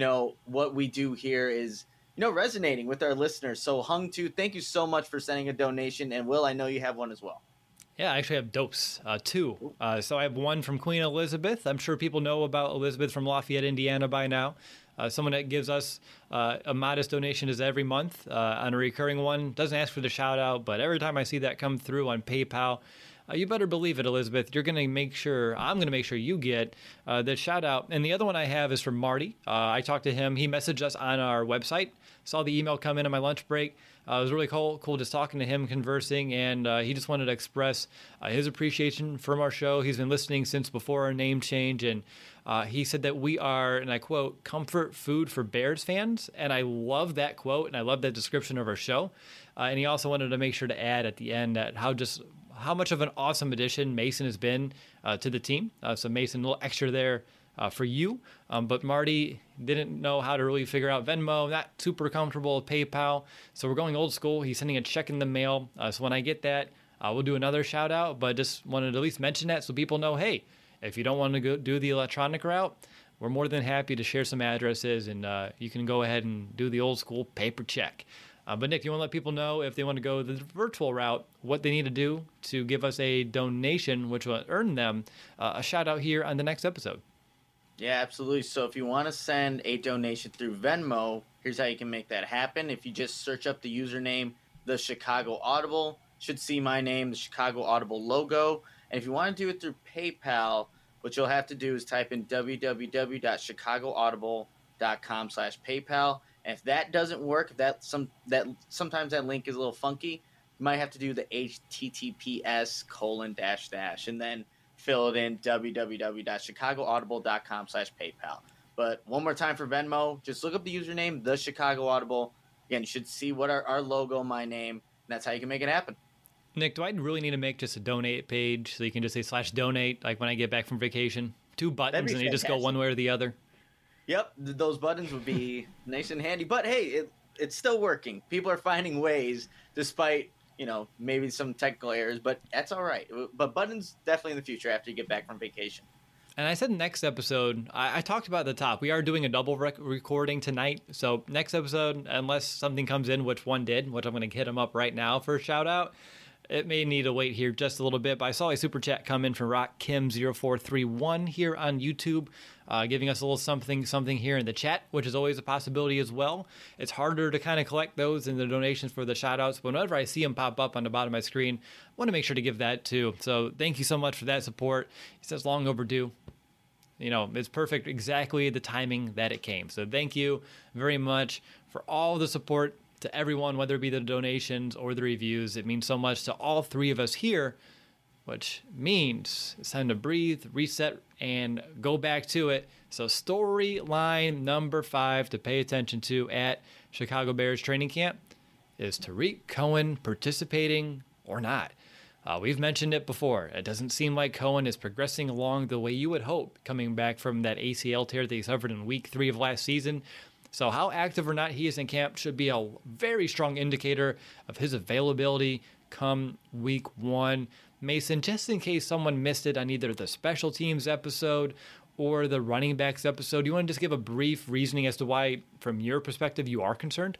what we do here is, resonating with our listeners. So Hung2, thank you so much for sending a donation. And Will, I know you have one as well. Yeah, I actually have dopes, 2. So I have one from Queen Elizabeth. I'm sure people know about Elizabeth from Lafayette, Indiana by now. Someone that gives us a modest donation is every month on a recurring one. Doesn't ask for the shout out, but every time I see that come through on PayPal, you better believe it, Elizabeth. I'm going to make sure you get the shout out. And the other one I have is from Marty. I talked to him. He messaged us on our website. Saw the email come in on my lunch break. It was really cool just talking to him, conversing, and he just wanted to express his appreciation from our show. He's been listening since before our name change, and he said that we are, and I quote, "comfort food for Bears fans." And I love that quote, and I love that description of our show. And he also wanted to make sure to add at the end that how much of an awesome addition Mason has been to the team. So Mason, a little extra there for you. But Marty didn't know how to really figure out Venmo, not super comfortable with PayPal. So we're going old school. He's sending a check in the mail. So when I get that, we'll do another shout out, but just wanted to at least mention that so people know, hey, if you don't want to go do the electronic route, we're more than happy to share some addresses, and you can go ahead and do the old school paper check. But Nick, you want to let people know if they want to go the virtual route, what they need to do to give us a donation, which will earn them a shout out here on the next episode. Yeah, absolutely. So if you want to send a donation through Venmo, here's how you can make that happen. If you just search up the username, The Chicago Audible, should see my name, the Chicago Audible logo. And if you want to do it through PayPal, what you'll have to do is type in www.chicagoaudible.com/PayPal. And if that doesn't work, sometimes that link is a little funky, you might have to do the https:// and then fill it in www.chicagoaudible.com/PayPal. But one more time for Venmo, just look up the username, The Chicago Audible. Again, you should see what our logo, my name, and that's how you can make it happen. Nick, do I really need to make just a donate page so you can just say /donate, like when I get back from vacation? 2 buttons and you just go one way or the other? Yep, those buttons would be nice and handy. But hey, it's still working. People are finding ways despite, maybe some technical errors, but that's all right. But buttons definitely in the future after you get back from vacation. And I said next episode, I talked about at the top, we are doing a double recording tonight. So next episode, unless something comes in, which one did, which I'm going to hit them up right now for a shout out, it may need to wait here just a little bit. But I saw a super chat come in from Rock Kim 0431 here on YouTube, giving us a little something here in the chat, which is always a possibility as well. It's harder to kind of collect those in the donations for the shout outs, but whenever I see them pop up on the bottom of my screen, I want to make sure to give that too. So thank you so much for that support. He says long overdue. You know, it's perfect, exactly the timing that it came. So thank you very much for all the support to everyone, whether it be the donations or the reviews. It means so much to all three of us here, which means it's time to breathe, reset, and go back to it. So storyline number 5 to pay attention to at Chicago Bears training camp is Tarik Cohen participating or not. We've mentioned it before. It doesn't seem like Cohen is progressing along the way you would hope coming back from that ACL tear that he suffered in week 3 of last season. So how active or not he is in camp should be a very strong indicator of his availability come week 1. Mason, just in case someone missed it on either the special teams episode or the running backs episode, do you want to just give a brief reasoning as to why, from your perspective, you are concerned?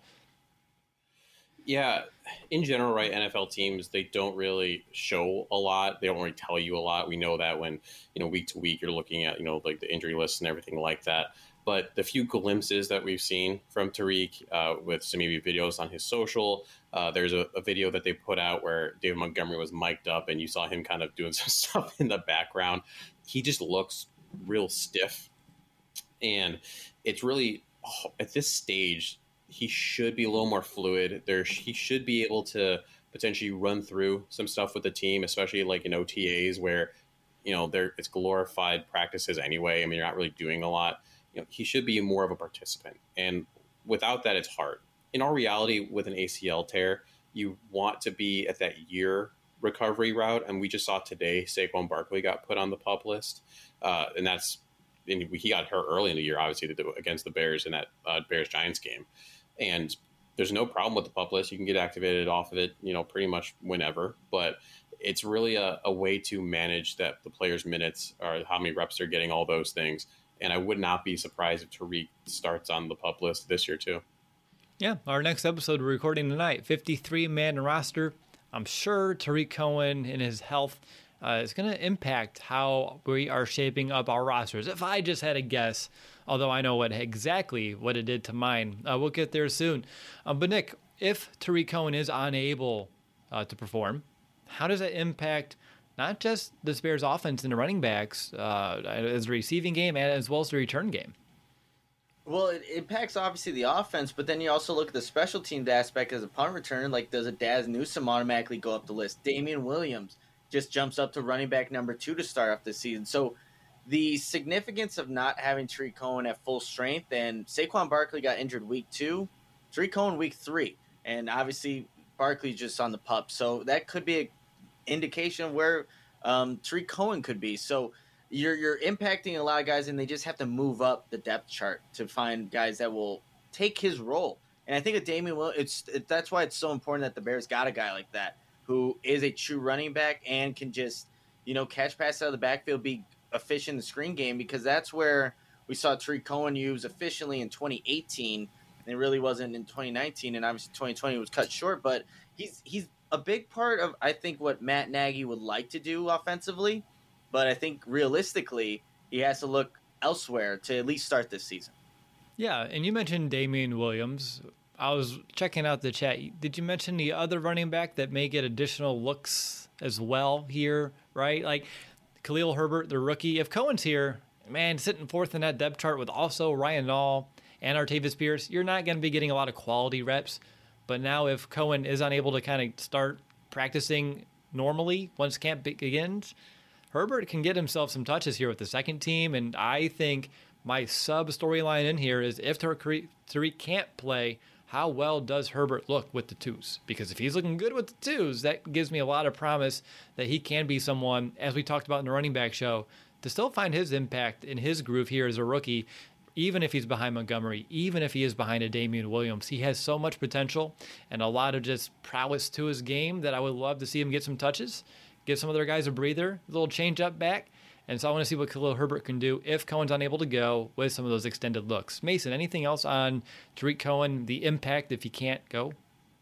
Yeah, in general, right, NFL teams, they don't really show a lot. They don't really tell you a lot. We know that when, week to week, you're looking at, like the injury list and everything like that. But the few glimpses that we've seen from Tarik with some maybe videos on his social, there's a video that they put out where David Montgomery was mic'd up and you saw him kind of doing some stuff in the background. He just looks real stiff. And it's really, at this stage, he should be a little more fluid. He should be able to potentially run through some stuff with the team, especially like in OTAs where, it's glorified practices anyway. I mean, you're not really doing a lot. He should be more of a participant. And without that, it's hard. In all reality, with an ACL tear, you want to be at that year recovery route. And we just saw today, Saquon Barkley got put on the PUP list. And he got hurt early in the year, obviously, against the Bears in that Bears-Giants game. And there's no problem with the PUP list. You can get activated off of it, pretty much whenever. But it's really a way to manage the players' minutes or how many reps they're getting, all those things. And I would not be surprised if Tarik starts on the PUP list this year too. Yeah, our next episode we're recording tonight, 53-man roster. I'm sure Tarik Cohen and his health is going to impact how we are shaping up our rosters. If I just had a guess, although I know exactly what it did to mine, we'll get there soon. But Nick, if Tarik Cohen is unable to perform, how does that impact not just the Bears offense and the running backs as a receiving game and as well as the return game? Well, it impacts obviously the offense, but then you also look at the special teams aspect as a punt return. Like, does a Daz Newsome automatically go up the list? Damian Williams just jumps up to running back number 2 to start off this season. So the significance of not having Tarik Cohen at full strength, and Saquon Barkley got injured week 2, Tarik Cohen week 3, and obviously Barkley's just on the PUP. So that could be an indication of where Tarik Cohen could be. So you're impacting a lot of guys, and they just have to move up the depth chart to find guys that will take his role. And I think with Damian Williams, that's why it's so important that the Bears got a guy like that who is a true running back and can just, catch passes out of the backfield, be efficient in the screen game, because that's where we saw Tarik Cohen use efficiently in 2018, and it really wasn't in 2019, and obviously 2020 was cut short, but he's a big part of, I think, what Matt Nagy would like to do offensively, but I think realistically he has to look elsewhere to at least start this season. Yeah, and you mentioned Damian Williams. I was checking out the chat. Did you mention the other running back that may get additional looks as well here, right? Like Khalil Herbert, the rookie. If Cohen's here, man, sitting fourth in that depth chart with also Ryan Nall and Artavis Pierce, you're not going to be getting a lot of quality reps. But now if Cohen is unable to kind of start practicing normally once camp begins, Herbert can get himself some touches here with the second team. And I think my sub-storyline in here is if Tarik can't play, how well does Herbert look with the twos? Because if he's looking good with the twos, that gives me a lot of promise that he can be someone, as we talked about in the running back show, to still find his impact in his groove here as a rookie, even if he's behind Montgomery, even if he is behind a Damian Williams. He has so much potential and a lot of just prowess to his game that I would love to see him get some touches, give some other guys a breather, a little change up back, And so I want to see what Khalil Herbert can do if Cohen's unable to go with some of those extended looks. Mason, anything else on Tariq Cohen, the impact if he can't go?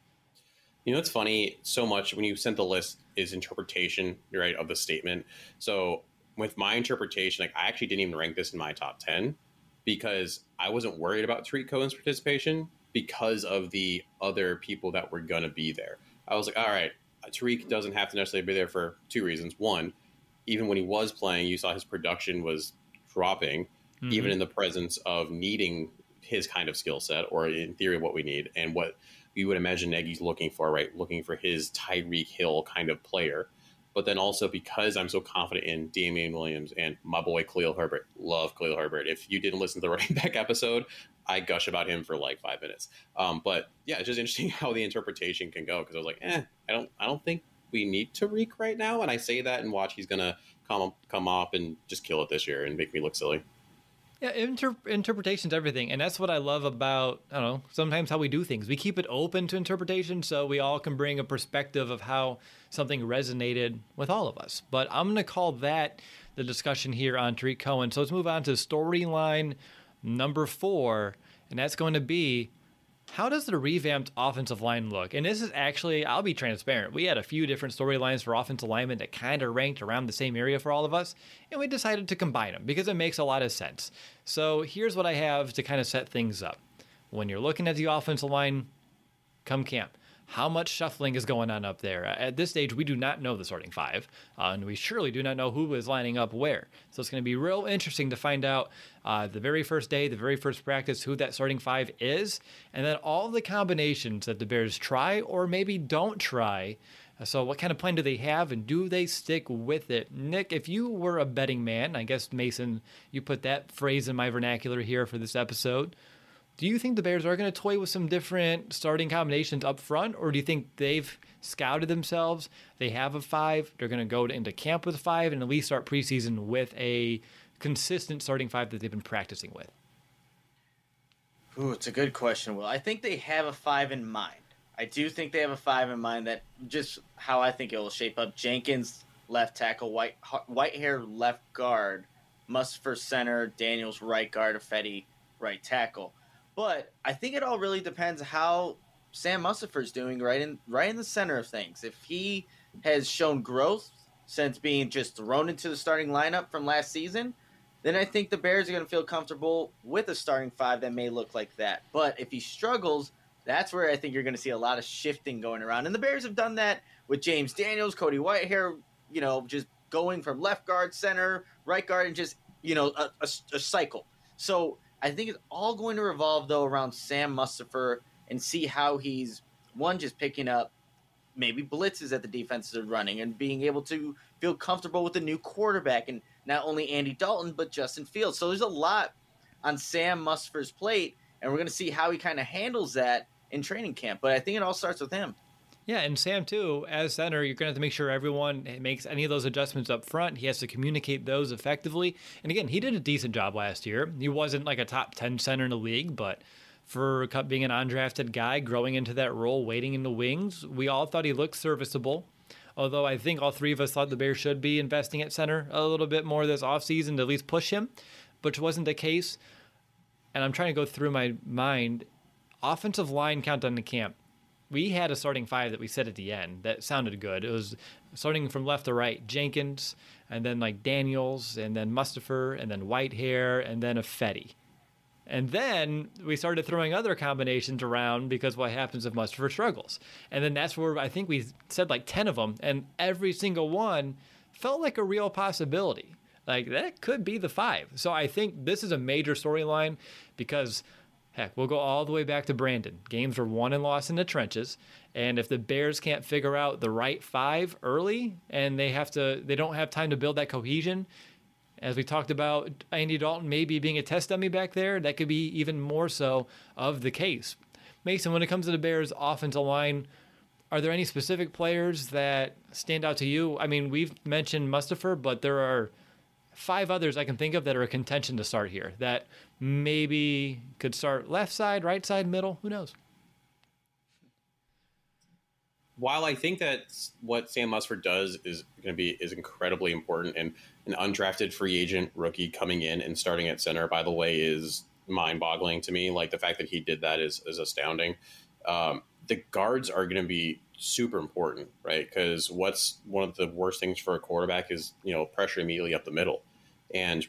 You know, it's funny, so much when you sent the list is interpretation, right, of the statement. So with my interpretation, like I actually didn't even rank this in my top 10 because I wasn't worried about Tariq Cohen's participation because of the other people that were going to be there. I was like, all right, Tariq doesn't have to necessarily be there for two reasons. One, even when he was playing, you saw his production was dropping, even in the presence of needing his kind of skill set, or in theory, what we need and what we would imagine Nagy's looking for, right? Looking for his Tyreek Hill kind of player. But then also because I'm so confident in Damian Williams and my boy Khalil Herbert. Love Khalil Herbert. If you didn't listen to the running back episode, I gush about him for like 5 minutes. But yeah, it's just interesting how the interpretation can go because I was like, I don't think we need Tariq right now. And I say that and watch he's gonna come up and just kill it this year and make me look silly. Yeah, interpretation's everything. And that's what I love about, I don't know, sometimes how we do things. We keep it open to interpretation so we all can bring a perspective of how something resonated with all of us. But I'm going to call that the discussion here on Tariq Cohen. So let's move on to storyline number 4. And that's going to be, how does the revamped offensive line look? And this is actually, I'll be transparent. We had a few different storylines for offensive linemen that kind of ranked around the same area for all of us, and we decided to combine them because it makes a lot of sense. So here's what I have to kind of set things up. When you're looking at the offensive line, come camp. How much shuffling is going on up there? At this stage, we do not know the starting 5, and we surely do not know who is lining up where. So it's going to be real interesting to find out the very first day, the very first practice, who that starting 5 is, and then all the combinations that the Bears try or maybe don't try. So what kind of plan do they have, and do they stick with it? Nick, if you were a betting man, I guess, Mason, you put that phrase in my vernacular here for this episode. Do you think the Bears are going to toy with some different starting combinations up front, or do you think they've scouted themselves? They have a 5. They're going to go into camp with a 5 and at least start preseason with a consistent starting 5 that they've been practicing with. Ooh, it's a good question, Will. I think they have a 5 in mind. I do think they have a 5 in mind, that just how I think it will shape up. Jenkins, left tackle, Whitehair, left guard, Mustipher, center, Daniels, right guard, Ifedi, right tackle. But I think it all really depends how Sam Mustipher's doing right in the center of things. If he has shown growth since being just thrown into the starting lineup from last season, then I think the Bears are going to feel comfortable with a starting 5 that may look like that. But if he struggles, that's where I think you're going to see a lot of shifting going around. And the Bears have done that with James Daniels, Cody Whitehair, just going from left guard, center, right guard, and just, a cycle. So I think it's all going to revolve, though, around Sam Mustipher and see how he's, one, just picking up maybe blitzes that the defenses are running and being able to feel comfortable with the new quarterback and not only Andy Dalton, but Justin Fields. So there's a lot on Sam Mustipher's plate, and we're going to see how he kind of handles that in training camp. But I think it all starts with him. Yeah, and Sam, too, as center, you're going to have to make sure everyone makes any of those adjustments up front. He has to communicate those effectively. And again, he did a decent job last year. He wasn't like a top 10 center in the league, but for being an undrafted guy, growing into that role, waiting in the wings, we all thought he looked serviceable. Although I think all three of us thought the Bears should be investing at center a little bit more this offseason to at least push him, which wasn't the case. And I'm trying to go through my mind. Offensive line countdown to camp. We had a starting 5 that we said at the end that sounded good. It was starting from left to right, Jenkins, and then like Daniels, and then Mustipher, and then Whitehair, and then Ifedi. And then we started throwing other combinations around because what happens if Mustipher struggles. And then that's where I think we said like 10 of them, and every single one felt like a real possibility. Like that could be the 5. So I think this is a major storyline because heck, we'll go all the way back to Brandon. Games were won and lost in the trenches. And if the Bears can't figure out the right 5 early and they don't have time to build that cohesion, as we talked about Andy Dalton maybe being a test dummy back there, that could be even more so of the case. Mason, when it comes to the Bears offensive line, are there any specific players that stand out to you? I mean, we've mentioned Mustipher, but there are 5 others I can think of that are a contention to start here that maybe could start left side, right side, middle. Who knows? while I think that what Sam Musford does is incredibly important, and an undrafted free agent rookie coming in and starting at center, by the way, is mind-boggling to me. Like, the fact that he did that is astounding. The guards are going to be super important, right? Because what's one of the worst things for a quarterback is, pressure immediately up the middle. And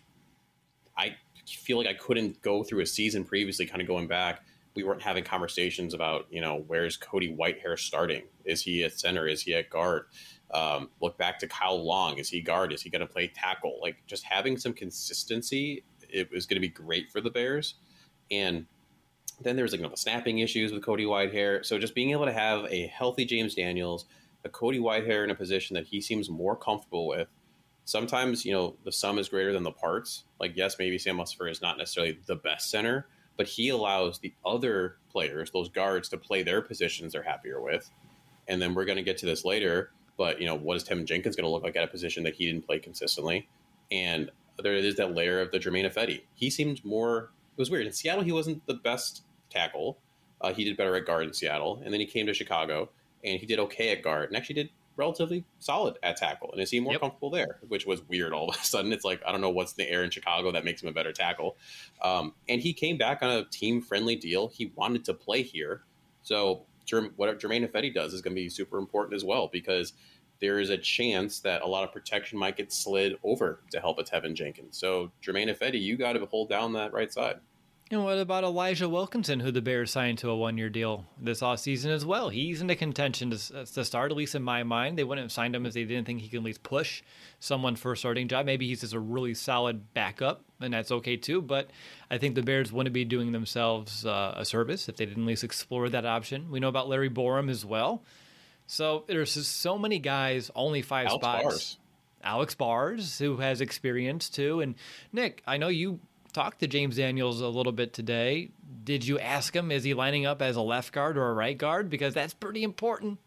I feel like I couldn't go through a season previously, kind of going back, we weren't having conversations about, where's Cody Whitehair starting? Is he at center? Is he at guard? Look back to Kyle Long. Is he guard? Is he going to play tackle? Like, just having some consistency, it was going to be great for the Bears. And then there's the snapping issues with Cody Whitehair. So just being able to have a healthy James Daniels, a Cody Whitehair in a position that he seems more comfortable with. Sometimes, the sum is greater than the parts. Like, yes, maybe Sam Musford is not necessarily the best center, but he allows the other players, those guards, to play their positions they're happier with. And then we're going to get to this later, but, what is Tevin Jenkins going to look like at a position that he didn't play consistently? And there is that layer of the Jermaine Ifedi. He seemed more, it was weird. In Seattle, he wasn't the best tackle. He did better at guard in Seattle. And then he came to Chicago, and he did okay at guard, and actually did relatively solid at tackle, and is he more comfortable there, which was weird. All of a sudden, it's like, I don't know what's in the air in Chicago that makes him a better tackle. And he came back on a team-friendly deal. He wanted to play here. So whatever Jermaine Ifedi does is going to be super important as well, because there is a chance that a lot of protection might get slid over to help a Tevin Jenkins. So Jermaine Ifedi, you got to hold down that right side. And what about Elijah Wilkinson, who the Bears signed to a one-year deal this offseason as well? He's into contention to start, at least in my mind. They wouldn't have signed him if they didn't think he can at least push someone for a starting job. Maybe he's just a really solid backup, and that's okay too. But I think the Bears wouldn't be doing themselves a service if they didn't at least explore that option. We know about Larry Borum as well. So there's just so many guys, only five spots. Alex Bars, who has experience too. And Nick, I know you talked to James Daniels a little bit today. Did you ask him, is he lining up as a left guard or a right guard? Because that's pretty important.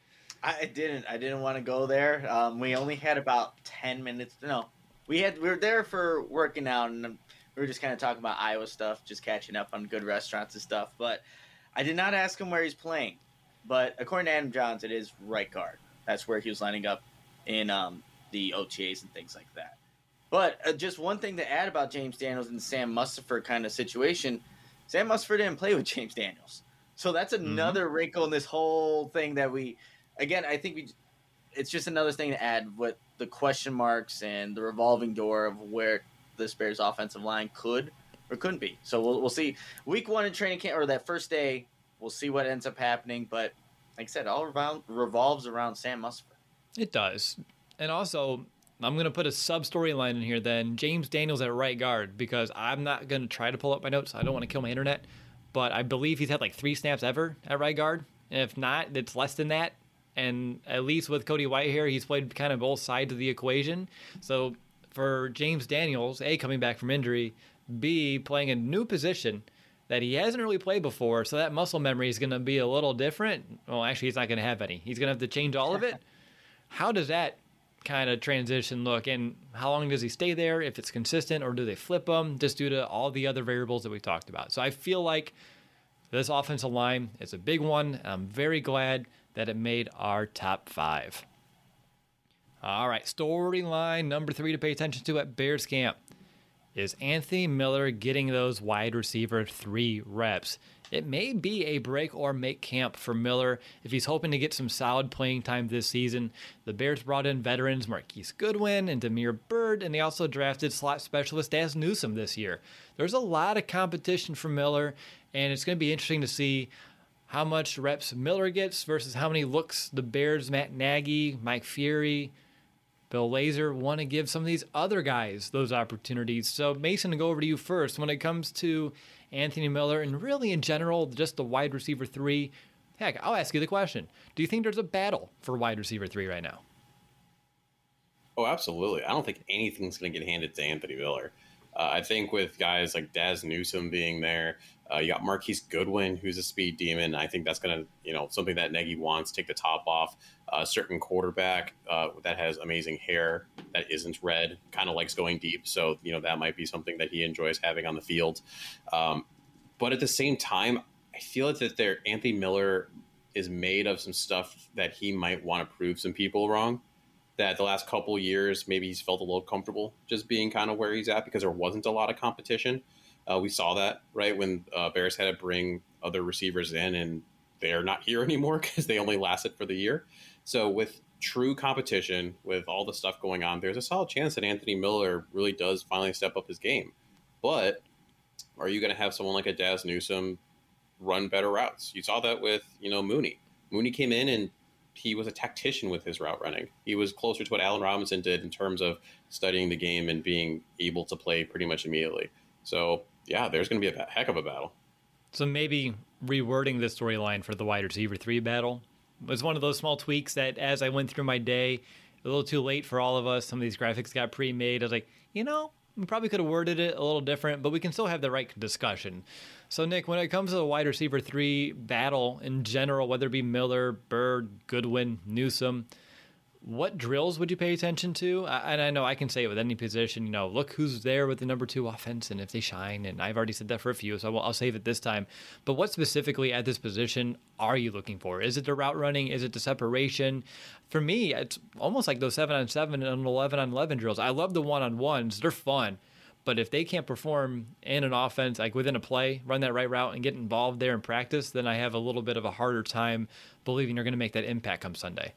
I didn't want to go there. We only had about 10 minutes. No, we were there for working out, and we were just kind of talking about Iowa stuff, just catching up on good restaurants and stuff. But I did not ask him where he's playing. But according to Adam Johns, it is right guard. That's where he was lining up in the OTAs and things like that. But just one thing to add about James Daniels and the Sam Musford kind of situation, Sam Musford didn't play with James Daniels. So that's another wrinkle in this whole thing that I think it's just another thing to add with the question marks and the revolving door of where this Bears offensive line could or couldn't be. So we'll see. Week 1 in training camp, or that first day, we'll see what ends up happening. But like I said, all revolves around Sam Musford. It does. And also, I'm going to put a sub-storyline in here then. James Daniels at right guard, because I'm not going to try to pull up my notes. I don't want to kill my internet. But I believe he's had like 3 snaps ever at right guard. And if not, it's less than that. And at least with Cody Whitehair, he's played kind of both sides of the equation. So for James Daniels, A, coming back from injury, B, playing a new position that he hasn't really played before, so that muscle memory is going to be a little different. Well, actually, he's not going to have any. He's going to have to change all of it. How does that kind of transition look, and how long does he stay there, if it's consistent, or do they flip him just due to all the other variables that we talked about? So I feel like this offensive line is a big one. I'm very glad that it made our top 5. All right, storyline number 3 to pay attention to at Bears camp is Anthony Miller getting those wide receiver 3 reps. It may be a break or make camp for Miller if he's hoping to get some solid playing time this season. The Bears brought in veterans Marquise Goodwin and Damiere Byrd, and they also drafted slot specialist Dazz Newsome this year. There's a lot of competition for Miller, and it's going to be interesting to see how much reps Miller gets versus how many looks the Bears, Matt Nagy, Mike Fury, Bill Lazor want to give some of these other guys those opportunities. So, Mason, to go over to you first. When it comes to Anthony Miller and really in general, just the wide receiver 3, heck, I'll ask you the question. Do you think there's a battle for wide receiver 3 right now? Oh, absolutely. I don't think anything's going to get handed to Anthony Miller. I think with guys like Dazz Newsome being there, you got Marquise Goodwin, who's a speed demon. I think that's going to, something that Nagy wants, take the top off. A certain quarterback that has amazing hair that isn't red, kind of likes going deep. So, that might be something that he enjoys having on the field. But at the same time, I feel that Anthony Miller is made of some stuff that he might want to prove some people wrong. That the last couple of years, maybe he's felt a little comfortable just being kind of where he's at because there wasn't a lot of competition. We saw that, right, when Bears had to bring other receivers in, and they're not here anymore because they only lasted for the year. So with true competition, with all the stuff going on, there's a solid chance that Anthony Miller really does finally step up his game. But are you going to have someone like a Daz Newsome run better routes? You saw that with, Mooney. Mooney came in and he was a tactician with his route running. He was closer to what Allen Robinson did in terms of studying the game and being able to play pretty much immediately. So, yeah, there's going to be a heck of a battle. So maybe rewording the storyline for the wide receiver 3 battle was one of those small tweaks that as I went through my day, a little too late for all of us. Some of these graphics got pre-made. I was like, we probably could have worded it a little different, but we can still have the right discussion. So, Nick, when it comes to the wide receiver 3 battle in general, whether it be Miller, Byrd, Goodwin, Newsome, what drills would you pay attention to? And I know I can say it with any position, look who's there with the number 2 offense and if they shine. And I've already said that for a few, so I'll save it this time. But what specifically at this position are you looking for? Is it the route running? Is it the separation? For me, it's almost like those 7-on-7 and 11-on-11 drills. I love the one-on-ones. They're fun. But if they can't perform in an offense, like within a play, run that right route and get involved there in practice, then I have a little bit of a harder time believing you're going to make that impact come Sunday.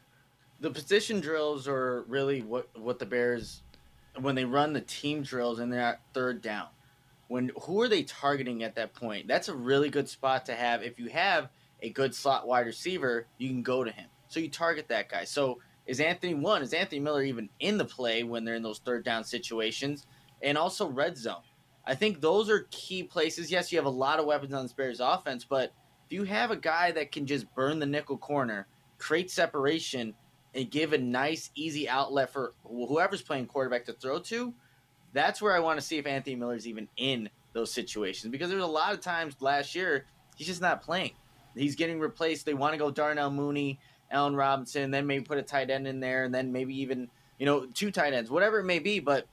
The position drills are really what the Bears, when they run the team drills and they're at third down, who are they targeting at that point? That's a really good spot to have. If you have a good slot wide receiver, you can go to him. So you target that guy. So is Anthony Miller even in the play when they're in those third down situations? And also red zone. I think those are key places. Yes, you have a lot of weapons on the Bears offense, but if you have a guy that can just burn the nickel corner, create separation, and give a nice, easy outlet for whoever's playing quarterback to throw to, that's where I want to see if Anthony Miller's even in those situations. Because there's a lot of times last year, he's just not playing. He's getting replaced. They want to go Darnell Mooney, Allen Robinson, then maybe put a tight end in there, and then maybe even, 2 tight ends, whatever it may be. But,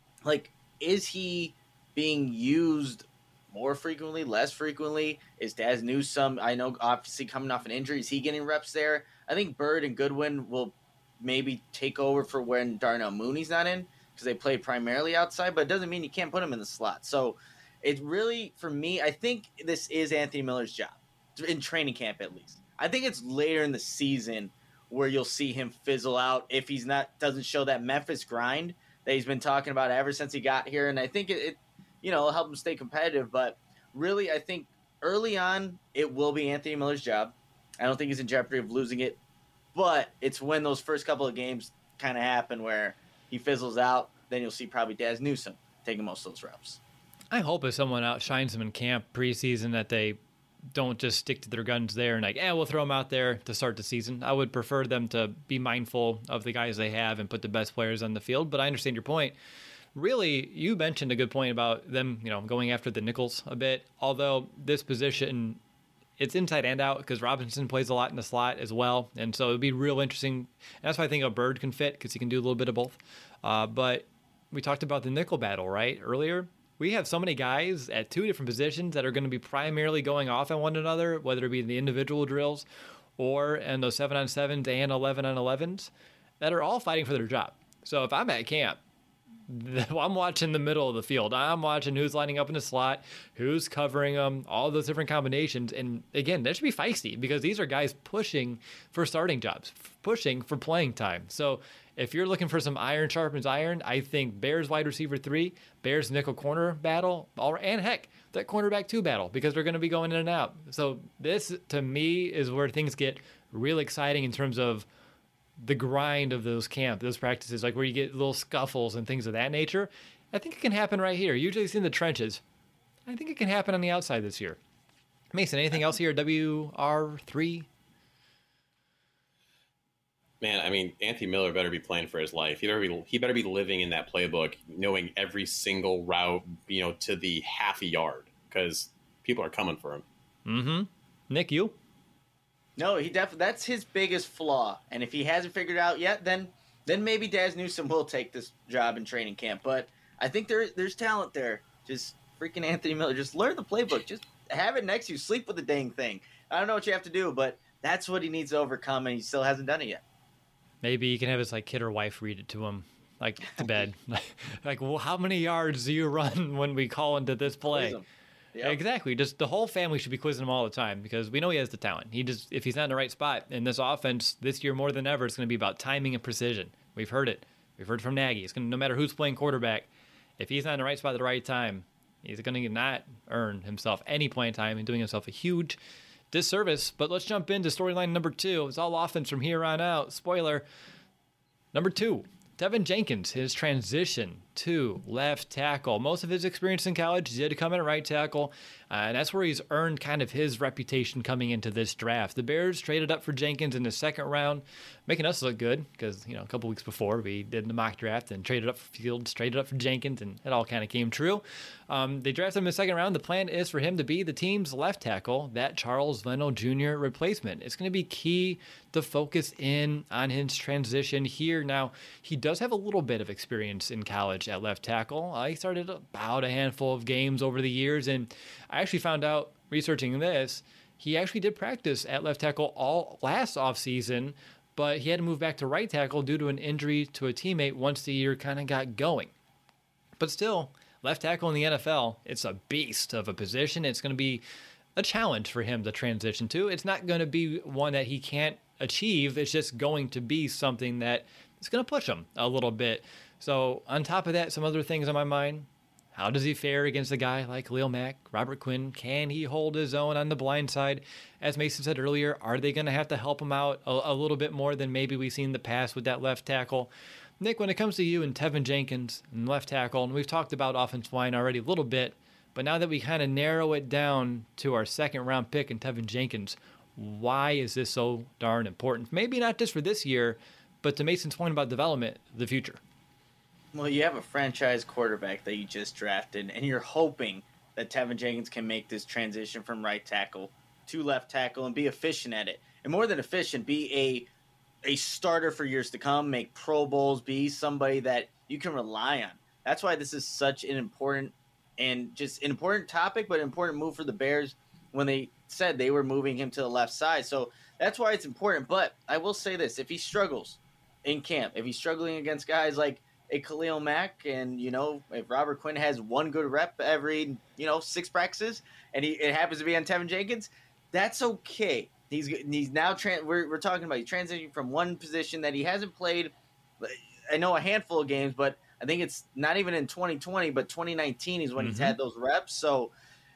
is he being used more frequently, less frequently? Is Daz Newsome, I know, obviously coming off an injury, is he getting reps there? I think Byrd and Goodwin will maybe take over for when Darnell Mooney's not in because they play primarily outside, but it doesn't mean you can't put him in the slot. So it really, for me, I think this is Anthony Miller's job, in training camp at least. I think it's later in the season where you'll see him fizzle out if he's doesn't show that Memphis grind that he's been talking about ever since he got here. And I think it'll help him stay competitive. But really, I think early on, it will be Anthony Miller's job. I don't think he's in jeopardy of losing it, but it's when those first couple of games kind of happen where he fizzles out, then you'll see probably Daz Newsome taking most of those reps. I hope if someone outshines them in camp preseason that they don't just stick to their guns there and we'll throw them out there to start the season. I would prefer them to be mindful of the guys they have and put the best players on the field, but I understand your point. Really, you mentioned a good point about them, going after the nickels a bit, although this position, it's inside and out because Robinson plays a lot in the slot as well. And so it'd be real interesting. And that's why I think a Byrd can fit because he can do a little bit of both. But we talked about the nickel battle, right? Earlier, we have so many guys at 2 different positions that are going to be primarily going off on one another, whether it be in the individual drills or in those 7-on-7s and 11-on-11s that are all fighting for their job. So if I'm at camp, I'm watching the middle of the field. I'm watching who's lining up in the slot, who's covering them, all those different combinations. And again, that should be feisty because these are guys pushing for starting jobs, pushing for playing time. So if you're looking for some iron sharpens iron, I think Bears wide receiver 3, Bears nickel corner battle, and heck, that cornerback 2 battle because they're going to be going in and out. So this, to me, is where things get real exciting in terms of the grind of those practices, like where you get little scuffles and things of that nature. I think it can happen right here. Usually it's in the trenches. I think it can happen on the outside this year. Mason, anything else here? WR3? Man, I mean, Anthony Miller better be playing for his life. He better be living in that playbook, knowing every single route, to the half a yard, because people are coming for him. Mm-hmm. Nick, you? No, that's his biggest flaw. And if he hasn't figured it out yet, then maybe Daz Newsome will take this job in training camp. But I think there's talent there. Just freaking Anthony Miller. Just learn the playbook. Just have it next to you. Sleep with the dang thing. I don't know what you have to do, but That's what he needs to overcome, and he still hasn't done it yet. Maybe he can have his like kid or wife read it to him, like to bed. Like, well, how many yards do you run when we call into this play? Yep. Exactly. Just the whole family should be quizzing him all the time because we know he has the talent. If he's not in the right spot in this offense this year more than ever, it's going to be about timing and precision. We've heard it. We've heard from Nagy. It's going to, no matter who's playing quarterback, if he's not in the right spot at the right time, he's going to not earn himself any playing time and doing himself a huge disservice. But let's jump into storyline number 2. It's all offense from here on out. Spoiler. Number 2. Tevin Jenkins, his transition to left tackle. Most of his experience in college did come in at right tackle, and that's where he's earned kind of his reputation coming into this draft. The Bears traded up for Jenkins in the second round, making us look good because, a couple weeks before we did the mock draft and traded up for Fields, traded up for Jenkins, and it all kind of came true. They drafted him in the second round. The plan is for him to be the team's left tackle, that Charles Leno Jr. replacement. It's going to be key to focus in on his transition here. Now, he does have a little bit of experience in college at left tackle. He started about a handful of games over the years, and I actually found out researching this, he actually did practice at left tackle all last offseason, but he had to move back to right tackle due to an injury to a teammate once the year kind of got going. But still, left tackle in the NFL, it's a beast of a position. It's going to be a challenge for him to transition to. It's not going to be one that he can't achieve. It's just going to be something that is going to push him a little bit. So on top of that, some other things on my mind. How does he fare against a guy like Khalil Mack, Robert Quinn? Can he hold his own on the blind side? As Mason said earlier, are they going to have to help him out a little bit more than maybe we've seen in the past with that left tackle? Nick, when it comes to you and Tevin Jenkins and left tackle, and we've talked about offensive line already a little bit, but now that we kind of narrow it down to our second round pick in Tevin Jenkins, why is this so darn important? Maybe not just for this year, but to Mason's point about development, the future. Well, you have a franchise quarterback that you just drafted, and you're hoping that Tevin Jenkins can make this transition from right tackle to left tackle and be efficient at it. And more than efficient, be a starter for years to come, make Pro Bowls, be somebody that you can rely on. That's why this is such an important topic, but an important move for the Bears when they said they were moving him to the left side. So that's why it's important. But I will say this, if he struggles in camp, if he's struggling against guys like a Khalil Mack, and if Robert Quinn has one good rep every 6 practices, and it happens to be on Tevin Jenkins, that's okay. He's now we're talking about he's transitioning from one position that he hasn't played. I know a handful of games, but I think it's not even in 2020, but 2019 is when he's had those reps. So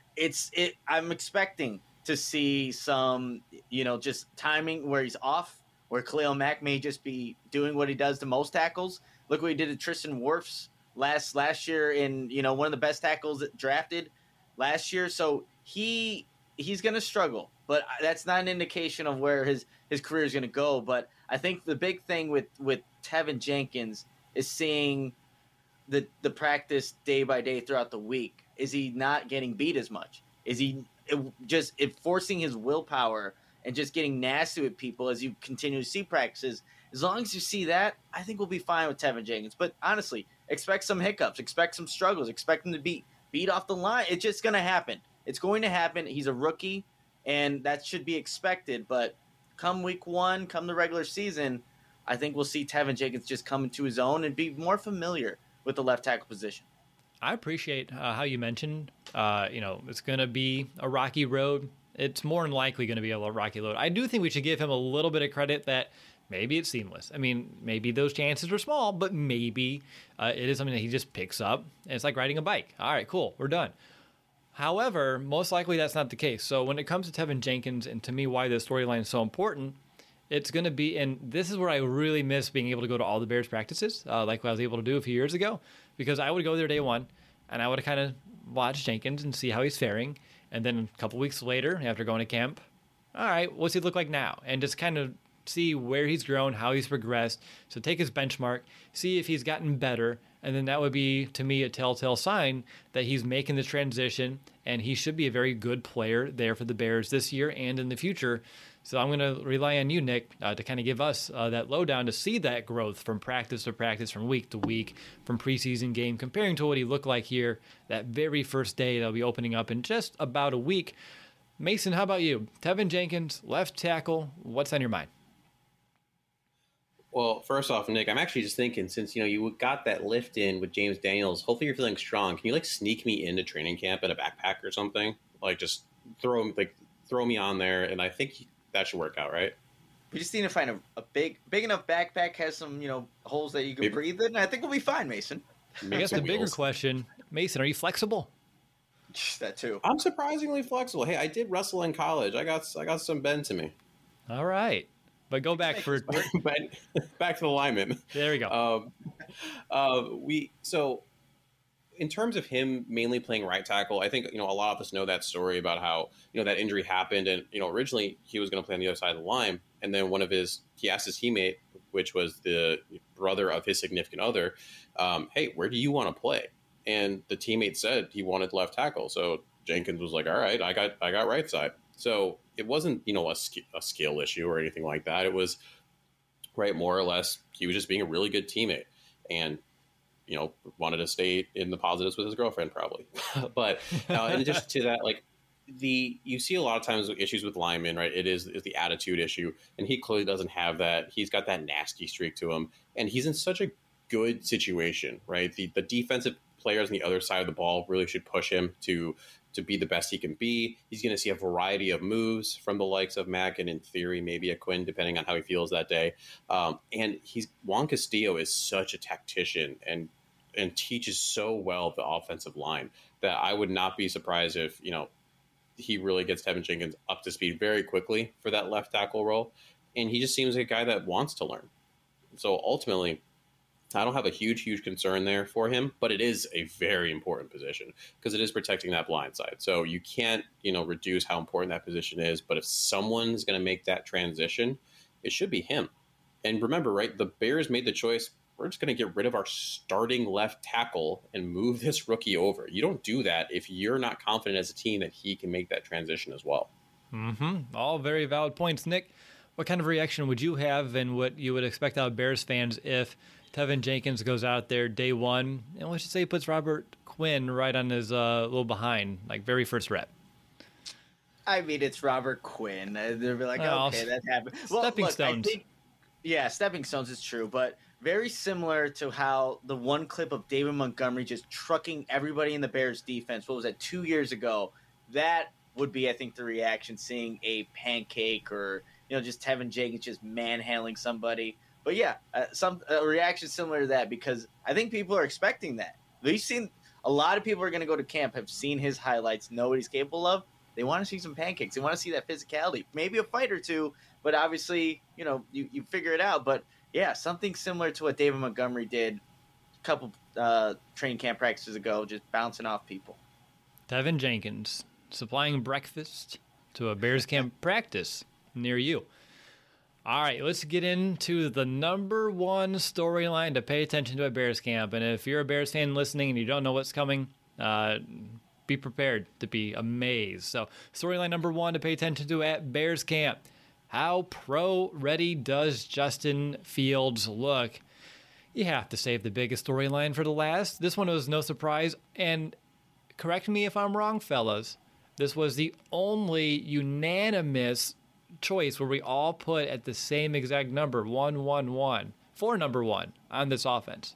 I'm expecting to see some just timing where he's off, where Khalil Mack may just be doing what he does to most tackles. Look what he did to Tristan Wirfs last year in one of the best tackles drafted last year. So he's going to struggle, but that's not an indication of where his career is going to go. But I think the big thing with Tevin Jenkins is seeing the practice day by day throughout the week. Is he not getting beat as much? Is he just forcing his willpower and just getting nasty with people as you continue to see practices? As long as you see that, I think we'll be fine with Tevin Jenkins. But honestly, expect some hiccups, expect some struggles, expect him to be beat off the line. It's just going to happen. It's going to happen. He's a rookie, and that should be expected. But come week 1, come the regular season, I think we'll see Tevin Jenkins just come into his own and be more familiar with the left tackle position. I appreciate how you mentioned, it's going to be a rocky road. It's more than likely going to be a rocky road. I do think we should give him a little bit of credit that maybe it's seamless. I mean, maybe those chances are small, but maybe it is something that he just picks up. And it's like riding a bike. All right, cool, we're done. However, most likely that's not the case. So when it comes to Tevin Jenkins, and to me why this storyline is so important, it's going to be, and this is where I really miss being able to go to all the Bears practices, like what I was able to do a few years ago, because I would go there day one, and I would kind of watch Jenkins and see how he's faring. And then a couple weeks later, after going to camp, all right, what's he look like now? And just kind of see where he's grown, how he's progressed. So take his benchmark, see if he's gotten better, and then that would be, to me, a telltale sign that he's making the transition, and he should be a very good player there for the Bears this year and in the future. So I'm going to rely on you, Nick, to kind of give us that lowdown to see that growth from practice to practice, from week to week, from preseason game, comparing to what he looked like here that very first day that'll be opening up in just about a week. Mason, how about you? Tevin Jenkins, left tackle. What's on your mind? Well, first off, Nick, I'm actually just thinking, since you got that lift in with James Daniels, hopefully you're feeling strong. Can you sneak me into training camp in a backpack or something? Just throw me on there, and I think that should work out, right? We just need to find a big enough backpack, has some holes that you can breathe in. I think we'll be fine, Mason. I guess the bigger question, Mason, are you flexible? That too. I'm surprisingly flexible. Hey, I did wrestle in college. I got some bend to me. All right. But go back for back to the lineman. There we go. So in terms of him mainly playing right tackle, I think a lot of us know that story about how that injury happened, and originally he was going to play on the other side of the line, and then he asked his teammate, which was the brother of his significant other, hey, where do you want to play? And the teammate said he wanted left tackle, so Jenkins was like, all right, I got right side. So it wasn't, a skill issue or anything like that. It was, right, more or less, he was just being a really good teammate and, wanted to stay in the positives with his girlfriend probably. But in addition to that, you see a lot of times issues with linemen, right? It is the attitude issue, and he clearly doesn't have that. He's got that nasty streak to him, and he's in such a good situation, right? The defensive players on the other side of the ball really should push him to be the best he can be. He's going to see a variety of moves from the likes of Mack and, in theory, maybe a Quinn, depending on how he feels that day. And Juan Castillo is such a tactician and teaches so well the offensive line that I would not be surprised if he really gets Tevin Jenkins up to speed very quickly for that left tackle role. And he just seems like a guy that wants to learn. So ultimately, I don't have a huge concern there for him, but it is a very important position because it is protecting that blind side. So you can't, reduce how important that position is. But if someone's going to make that transition, it should be him. And remember, right, the Bears made the choice. We're just going to get rid of our starting left tackle and move this rookie over. You don't do that if you're not confident as a team that he can make that transition as well. Mm-hmm. All very valid points. Nick, what kind of reaction would you have and what you would expect out of Bears fans if Tevin Jenkins goes out there day one, and let's just say he puts Robert Quinn right on his little behind, very first rep? I mean, it's Robert Quinn. They'll be like, okay, that happened. Stepping stones. Stepping stones is true, but very similar to how the one clip of David Montgomery just trucking everybody in the Bears defense, what was that, 2 years ago? That would be, I think, the reaction, seeing a pancake or, just Tevin Jenkins just manhandling somebody. But yeah, a reaction similar to that, because I think people are expecting that. We've seen a lot of people are going to go to camp, have seen his highlights, know what he's capable of. They want to see some pancakes. They want to see that physicality, maybe a fight or two, but obviously, you figure it out. But yeah, something similar to what David Montgomery did a couple training camp practices ago, just bouncing off people. Tevin Jenkins supplying breakfast to a Bears camp practice near you. All right, let's get into the number one storyline to pay attention to at Bears camp. And if you're a Bears fan listening and you don't know what's coming, be prepared to be amazed. So storyline number one to pay attention to at Bears camp. How pro-ready does Justin Fields look? You have to save the biggest storyline for the last. This one was no surprise. And correct me if I'm wrong, fellas. This was the only unanimous choice where we all put at the same exact number, 1-1-1, for number one on this offense.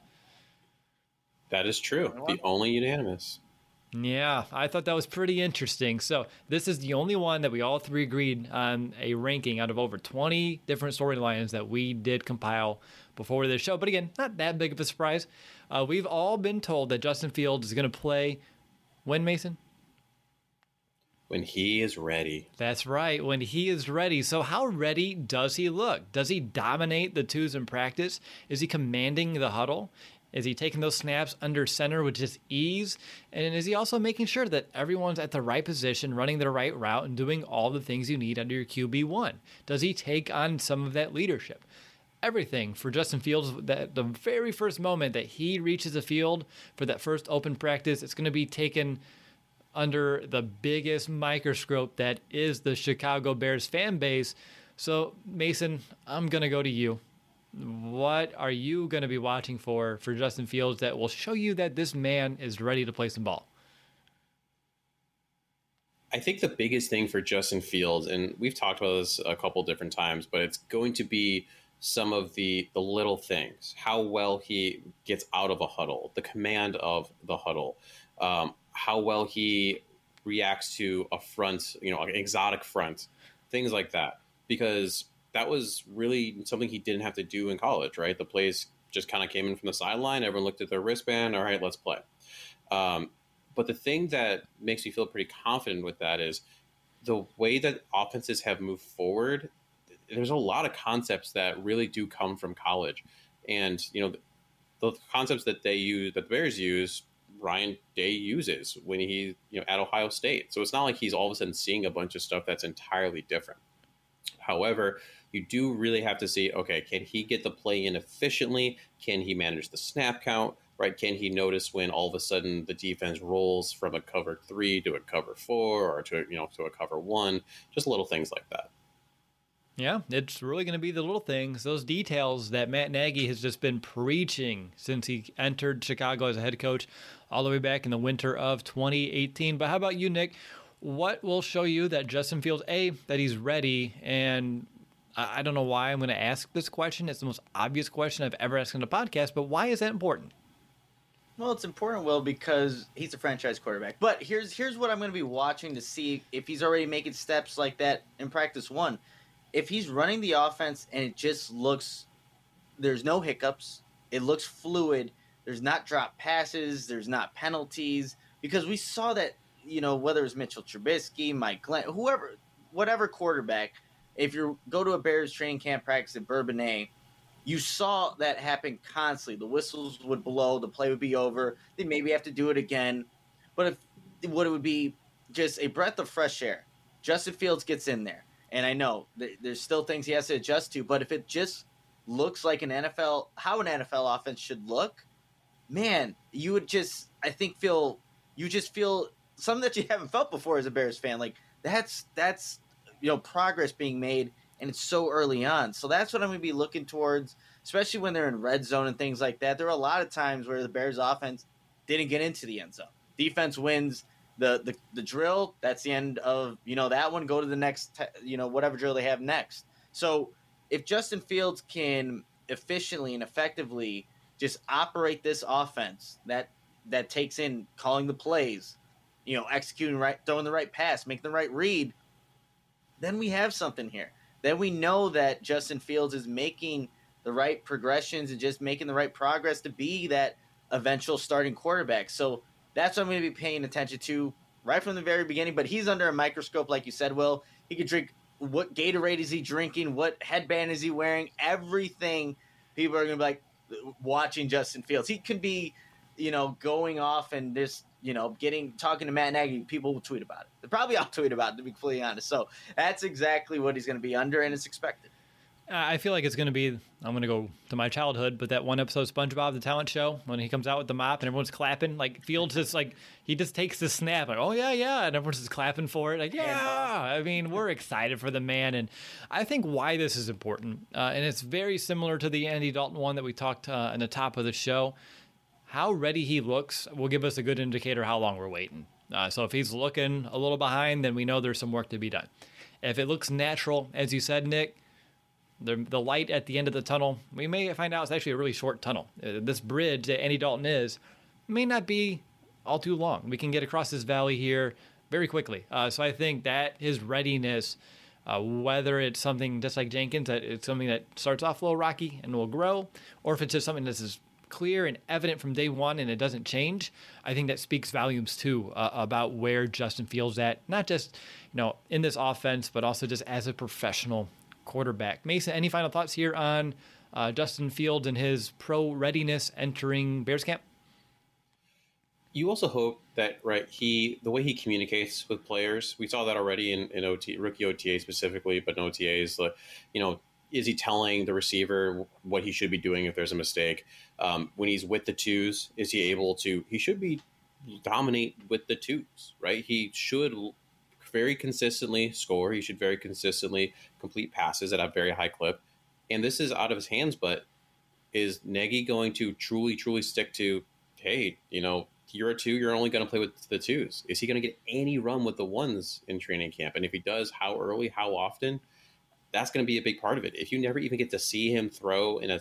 That is true. The only unanimous. Yeah, I thought that was pretty interesting. So this is the only one that we all three agreed on a ranking out of over 20 different storylines that we did compile before this show. But again, not that big of a surprise. We've all been told that Justin Fields is going to play when, Mason? When he is ready. That's right, when he is ready. So how ready does he look? Does he dominate the twos in practice? Is he commanding the huddle? Is he taking those snaps under center with just ease? And is he also making sure that everyone's at the right position, running the right route, and doing all the things you need under your QB1? Does he take on some of that leadership? Everything for Justin Fields, that the very first moment that he reaches the field for that first open practice, it's going to be taken under the biggest microscope that is the Chicago Bears fan base. So, Mason, I'm going to go to you. What are you going to be watching for Justin Fields that will show you that this man is ready to play some ball? I think the biggest thing for Justin Fields, and we've talked about this a couple different times, but it's going to be some of the little things, how well he gets out of a huddle, the command of the huddle, how well he reacts to a front, an exotic front, things like that. Because that was really something he didn't have to do in college, right? The plays just kind of came in from the sideline. Everyone looked at their wristband. All right, let's play. But the thing that makes me feel pretty confident with that is the way that offenses have moved forward. There's a lot of concepts that really do come from college. And, the concepts that the Bears use, Ryan Day uses when he, at Ohio State. So it's not like he's all of a sudden seeing a bunch of stuff that's entirely different. However, you do really have to see, okay, can he get the play in efficiently? Can he manage the snap count? Right? Can he notice when all of a sudden the defense rolls from a cover 3 to a cover 4 or to a cover 1? Just little things like that. Yeah, it's really going to be the little things, those details that Matt Nagy has just been preaching since he entered Chicago as a head coach all the way back in the winter of 2018. But how about you, Nick? What will show you that Justin Fields, that he's ready? And I don't know why I'm going to ask this question. It's the most obvious question I've ever asked on the podcast, but why is that important? Well, it's important, Will, because he's a franchise quarterback. But here's what I'm going to be watching to see if he's already making steps like that in practice 1. If he's running the offense and it just looks, there's no hiccups, it looks fluid, there's not drop passes, there's not penalties, because we saw that, whether it's Mitchell Trubisky, Mike Glenn, whatever quarterback, if you go to a Bears training camp practice at Bourbonnais, you saw that happen constantly. The whistles would blow, the play would be over, they maybe have to do it again. But it would be just a breath of fresh air. Justin Fields gets in there. And I know there's still things he has to adjust to, but if it just looks like how an NFL offense should look, man, you would just, feel something that you haven't felt before as a Bears fan. Like that's progress being made, and it's so early on. So that's what I'm going to be looking towards, especially when they're in red zone and things like that. There are a lot of times where the Bears offense didn't get into the end zone. Defense wins the drill. That's the end of, that one. Go to the next, whatever drill they have next. So if Justin Fields can efficiently and effectively just operate this offense that takes in calling the plays, executing right, throwing the right pass, making the right read, then we have something here. Then we know that Justin Fields is making the right progressions and just making the right progress to be that eventual starting quarterback. So that's what I'm going to be paying attention to right from the very beginning. But he's under a microscope, like you said, Will. He could drink. What Gatorade is he drinking? What headband is he wearing? Everything. People are going to be like watching Justin Fields. He can be, going off and just, talking to Matt Nagy. People will tweet about it. They'll probably all tweet about it, to be completely honest. So that's exactly what he's going to be under, and it's expected. I feel like it's going to be, I'm going to go to my childhood, but that one episode of SpongeBob, the talent show, when he comes out with the mop and everyone's clapping, like Fields just he just takes the snap, like, oh yeah, and everyone's just clapping for it. Like, yeah, I mean, we're excited for the man. And I think why this is important, and it's very similar to the Andy Dalton one that we talked in the top of the show. How ready he looks will give us a good indicator how long we're waiting. So if he's looking a little behind, then we know there's some work to be done. If it looks natural, as you said, Nick, the light at the end of the tunnel, we may find out it's actually a really short tunnel. This bridge that Andy Dalton may not be all too long. We can get across this valley here very quickly. So I think that his readiness, whether it's something just like Jenkins, that it's something that starts off a little rocky and will grow, or if it's just something that's as clear and evident from day one and it doesn't change, I think that speaks volumes too about where Justin Fields at, not just in this offense, but also just as a professional quarterback. Mason, any final thoughts here on Justin Fields and his pro readiness entering Bears camp? You also hope that, right, the way he communicates with players, we saw that already in rookie OTA specifically, but in OTAs, is he telling the receiver what he should be doing if there's a mistake? When he's with the twos, is he able to, he should be dominate with the twos, right? He should very consistently score. He should very consistently complete passes at a very high clip. And this is out of his hands, but is Nagy going to truly stick to, hey, year or two, you're only going to play with the twos. Is he going to get any run with the ones in training camp? And if he does, how early, how often? That's going to be a big part of it. If you never even get to see him throw in a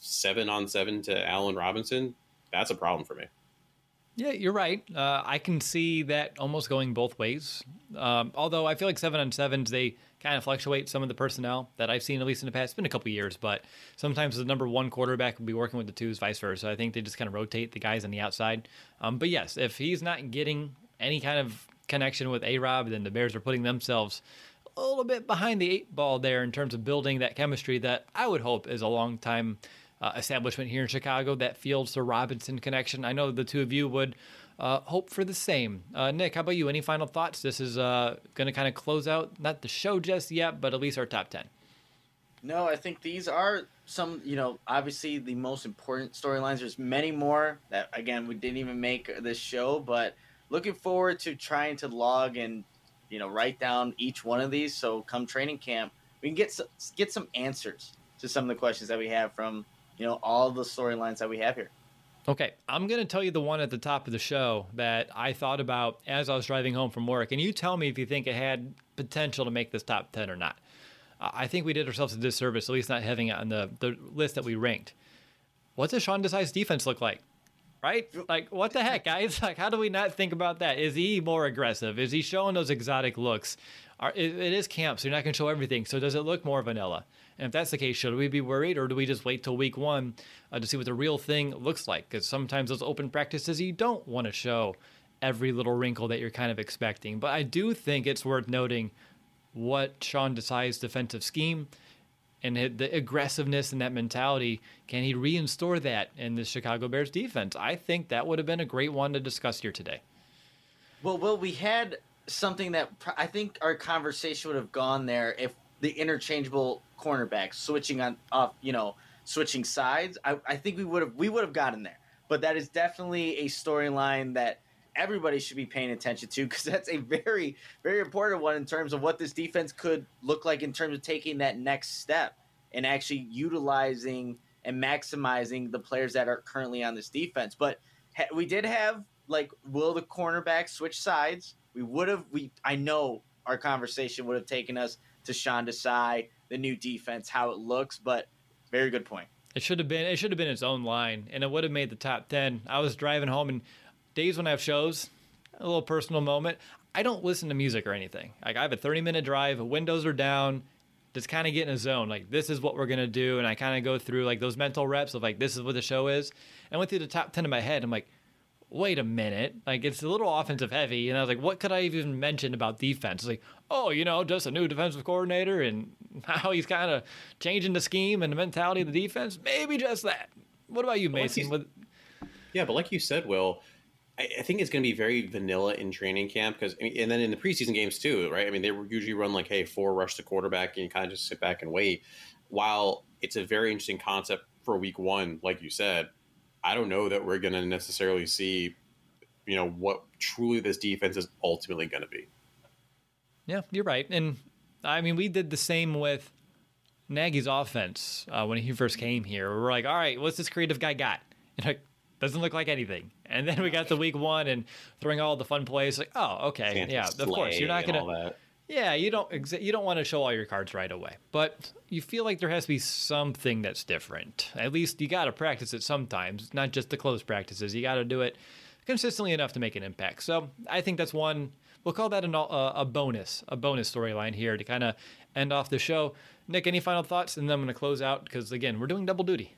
7-on-7 to Allen Robinson, that's a problem for me. Yeah, you're right. I can see that almost going both ways. Although I feel like 7-on-7s, they kind of fluctuate some of the personnel that I've seen, at least in the past. It's been a couple years, but sometimes the number one quarterback will be working with the twos, vice versa. I think they just kind of rotate the guys on the outside. But yes, if he's not getting any kind of connection with A-Rob, then the Bears are putting themselves a little bit behind the 8 ball there in terms of building that chemistry that I would hope is a long time establishment here in Chicago, that Fields to Robinson connection. I know the two of you would hope for the same. Nick, how about you? Any final thoughts? This is going to kind of close out, not the show just yet, but at least our top 10. No, I think these are some, obviously the most important storylines. There's many more that, again, we didn't even make this show, but looking forward to trying to log and, write down each one of these. So come training camp, we can get some answers to some of the questions that we have from, all the storylines that we have here. Okay, I'm going to tell you the one at the top of the show that I thought about as I was driving home from work, and you tell me if you think it had potential to make this top 10 or not. I think we did ourselves a disservice, at least not having it on the list that we ranked. What does Sean Desai's defense look like? Right? Like, what the heck, guys? Like, how do we not think about that? Is he more aggressive? Is he showing those exotic looks? It is camp, so you're not going to show everything. So does it look more vanilla? And if that's the case, should we be worried, or do we just wait till week one to see what the real thing looks like? Because sometimes those open practices, you don't want to show every little wrinkle that you're kind of expecting. But I do think it's worth noting what Sean Desai's defensive scheme and the aggressiveness and that mentality, can he reinstore that in the Chicago Bears defense? I think that would have been a great one to discuss here today. Well, Will, we had something that I think our conversation would have gone there if the interchangeable cornerbacks switching sides. I think we would have gotten there. But that is definitely a storyline that everybody should be paying attention to, because that's a very, very important one in terms of what this defense could look like in terms of taking that next step and actually utilizing and maximizing the players that are currently on this defense. But we did have, will the cornerbacks switch sides? I know our conversation would have taken us to Sean Desai, the new defense, how it looks, but very good point. It should have been its own line, and it would have made the top 10. I was driving home, and days when I have shows, a little personal moment, I don't listen to music or anything. Like, I have a 30-minute drive, windows are down, just kind of get in a zone. Like, this is what we're going to do, and I kind of go through, those mental reps of, this is what the show is. I went through the top 10 in my head. I'm like, wait a minute. It's a little offensive heavy, and I was like, what could I even mention about defense? It's just a new defensive coordinator and how he's kind of changing the scheme and the mentality of the defense. Maybe just that. What about you, Mason? Yeah, but like you said, Will, I think it's going to be very vanilla in training camp, and then in the preseason games too, right? I mean, they usually run 4 rush to quarterback, and you kind of just sit back and wait. While it's a very interesting concept for week one, like you said, I don't know that we're going to necessarily see, what truly this defense is ultimately going to be. Yeah, you're right. And I mean, we did the same with Nagy's offense when he first came here. We're like, all right, what's this creative guy got? And doesn't look like anything. And then we got to week one and throwing all the fun plays. Like, oh, okay, Santa yeah, of course you're not gonna. Yeah, you don't want to show all your cards right away, but you feel like there has to be something that's different. At least you got to practice it sometimes, not just the close practices. You got to do it consistently enough to make an impact. So I think that's one. We'll call that a bonus storyline here to kind of end off the show. Nick, any final thoughts? And then I'm going to close out because again, we're doing double duty.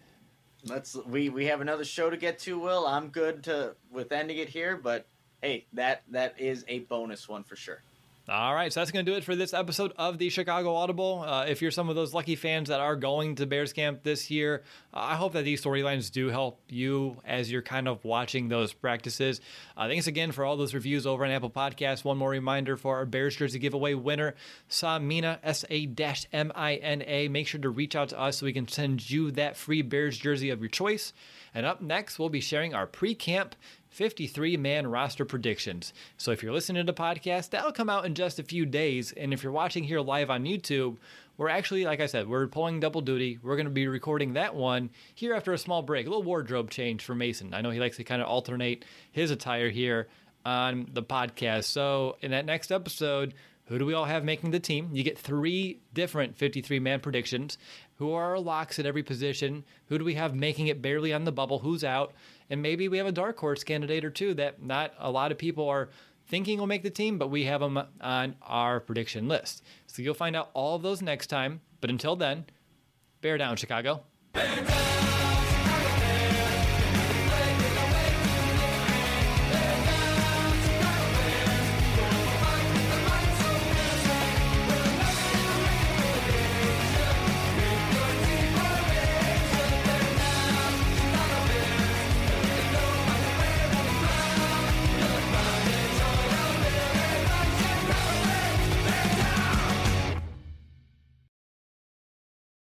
We have another show to get to, Will. I'm good with ending it here, but hey, that is a bonus one for sure. All right, so that's going to do it for this episode of the Chicago Audible. If you're some of those lucky fans that are going to Bears camp this year, I hope that these storylines do help you as you're kind of watching those practices. Thanks again for all those reviews over on Apple Podcasts. One more reminder for our Bears jersey giveaway winner, Samina, S-A-M-I-N-A. Make sure to reach out to us so we can send you that free Bears jersey of your choice. And up next, we'll be sharing our pre-camp 53-man roster predictions. So if you're listening to the podcast, that'll come out in just a few days. And if you're watching here live on YouTube, we're actually, like I said, we're pulling double duty. We're going to be recording that one here after a small break, a little wardrobe change for Mason. I know he likes to kind of alternate his attire here on the podcast. So in that next episode, who do we all have making the team? You get 3 different 53-man predictions. Who are our locks at every position? Who do we have making it barely on the bubble? Who's out? And maybe we have a dark horse candidate or two that not a lot of people are thinking will make the team, but we have them on our prediction list. So you'll find out all of those next time. But until then, bear down, Chicago. Bear down!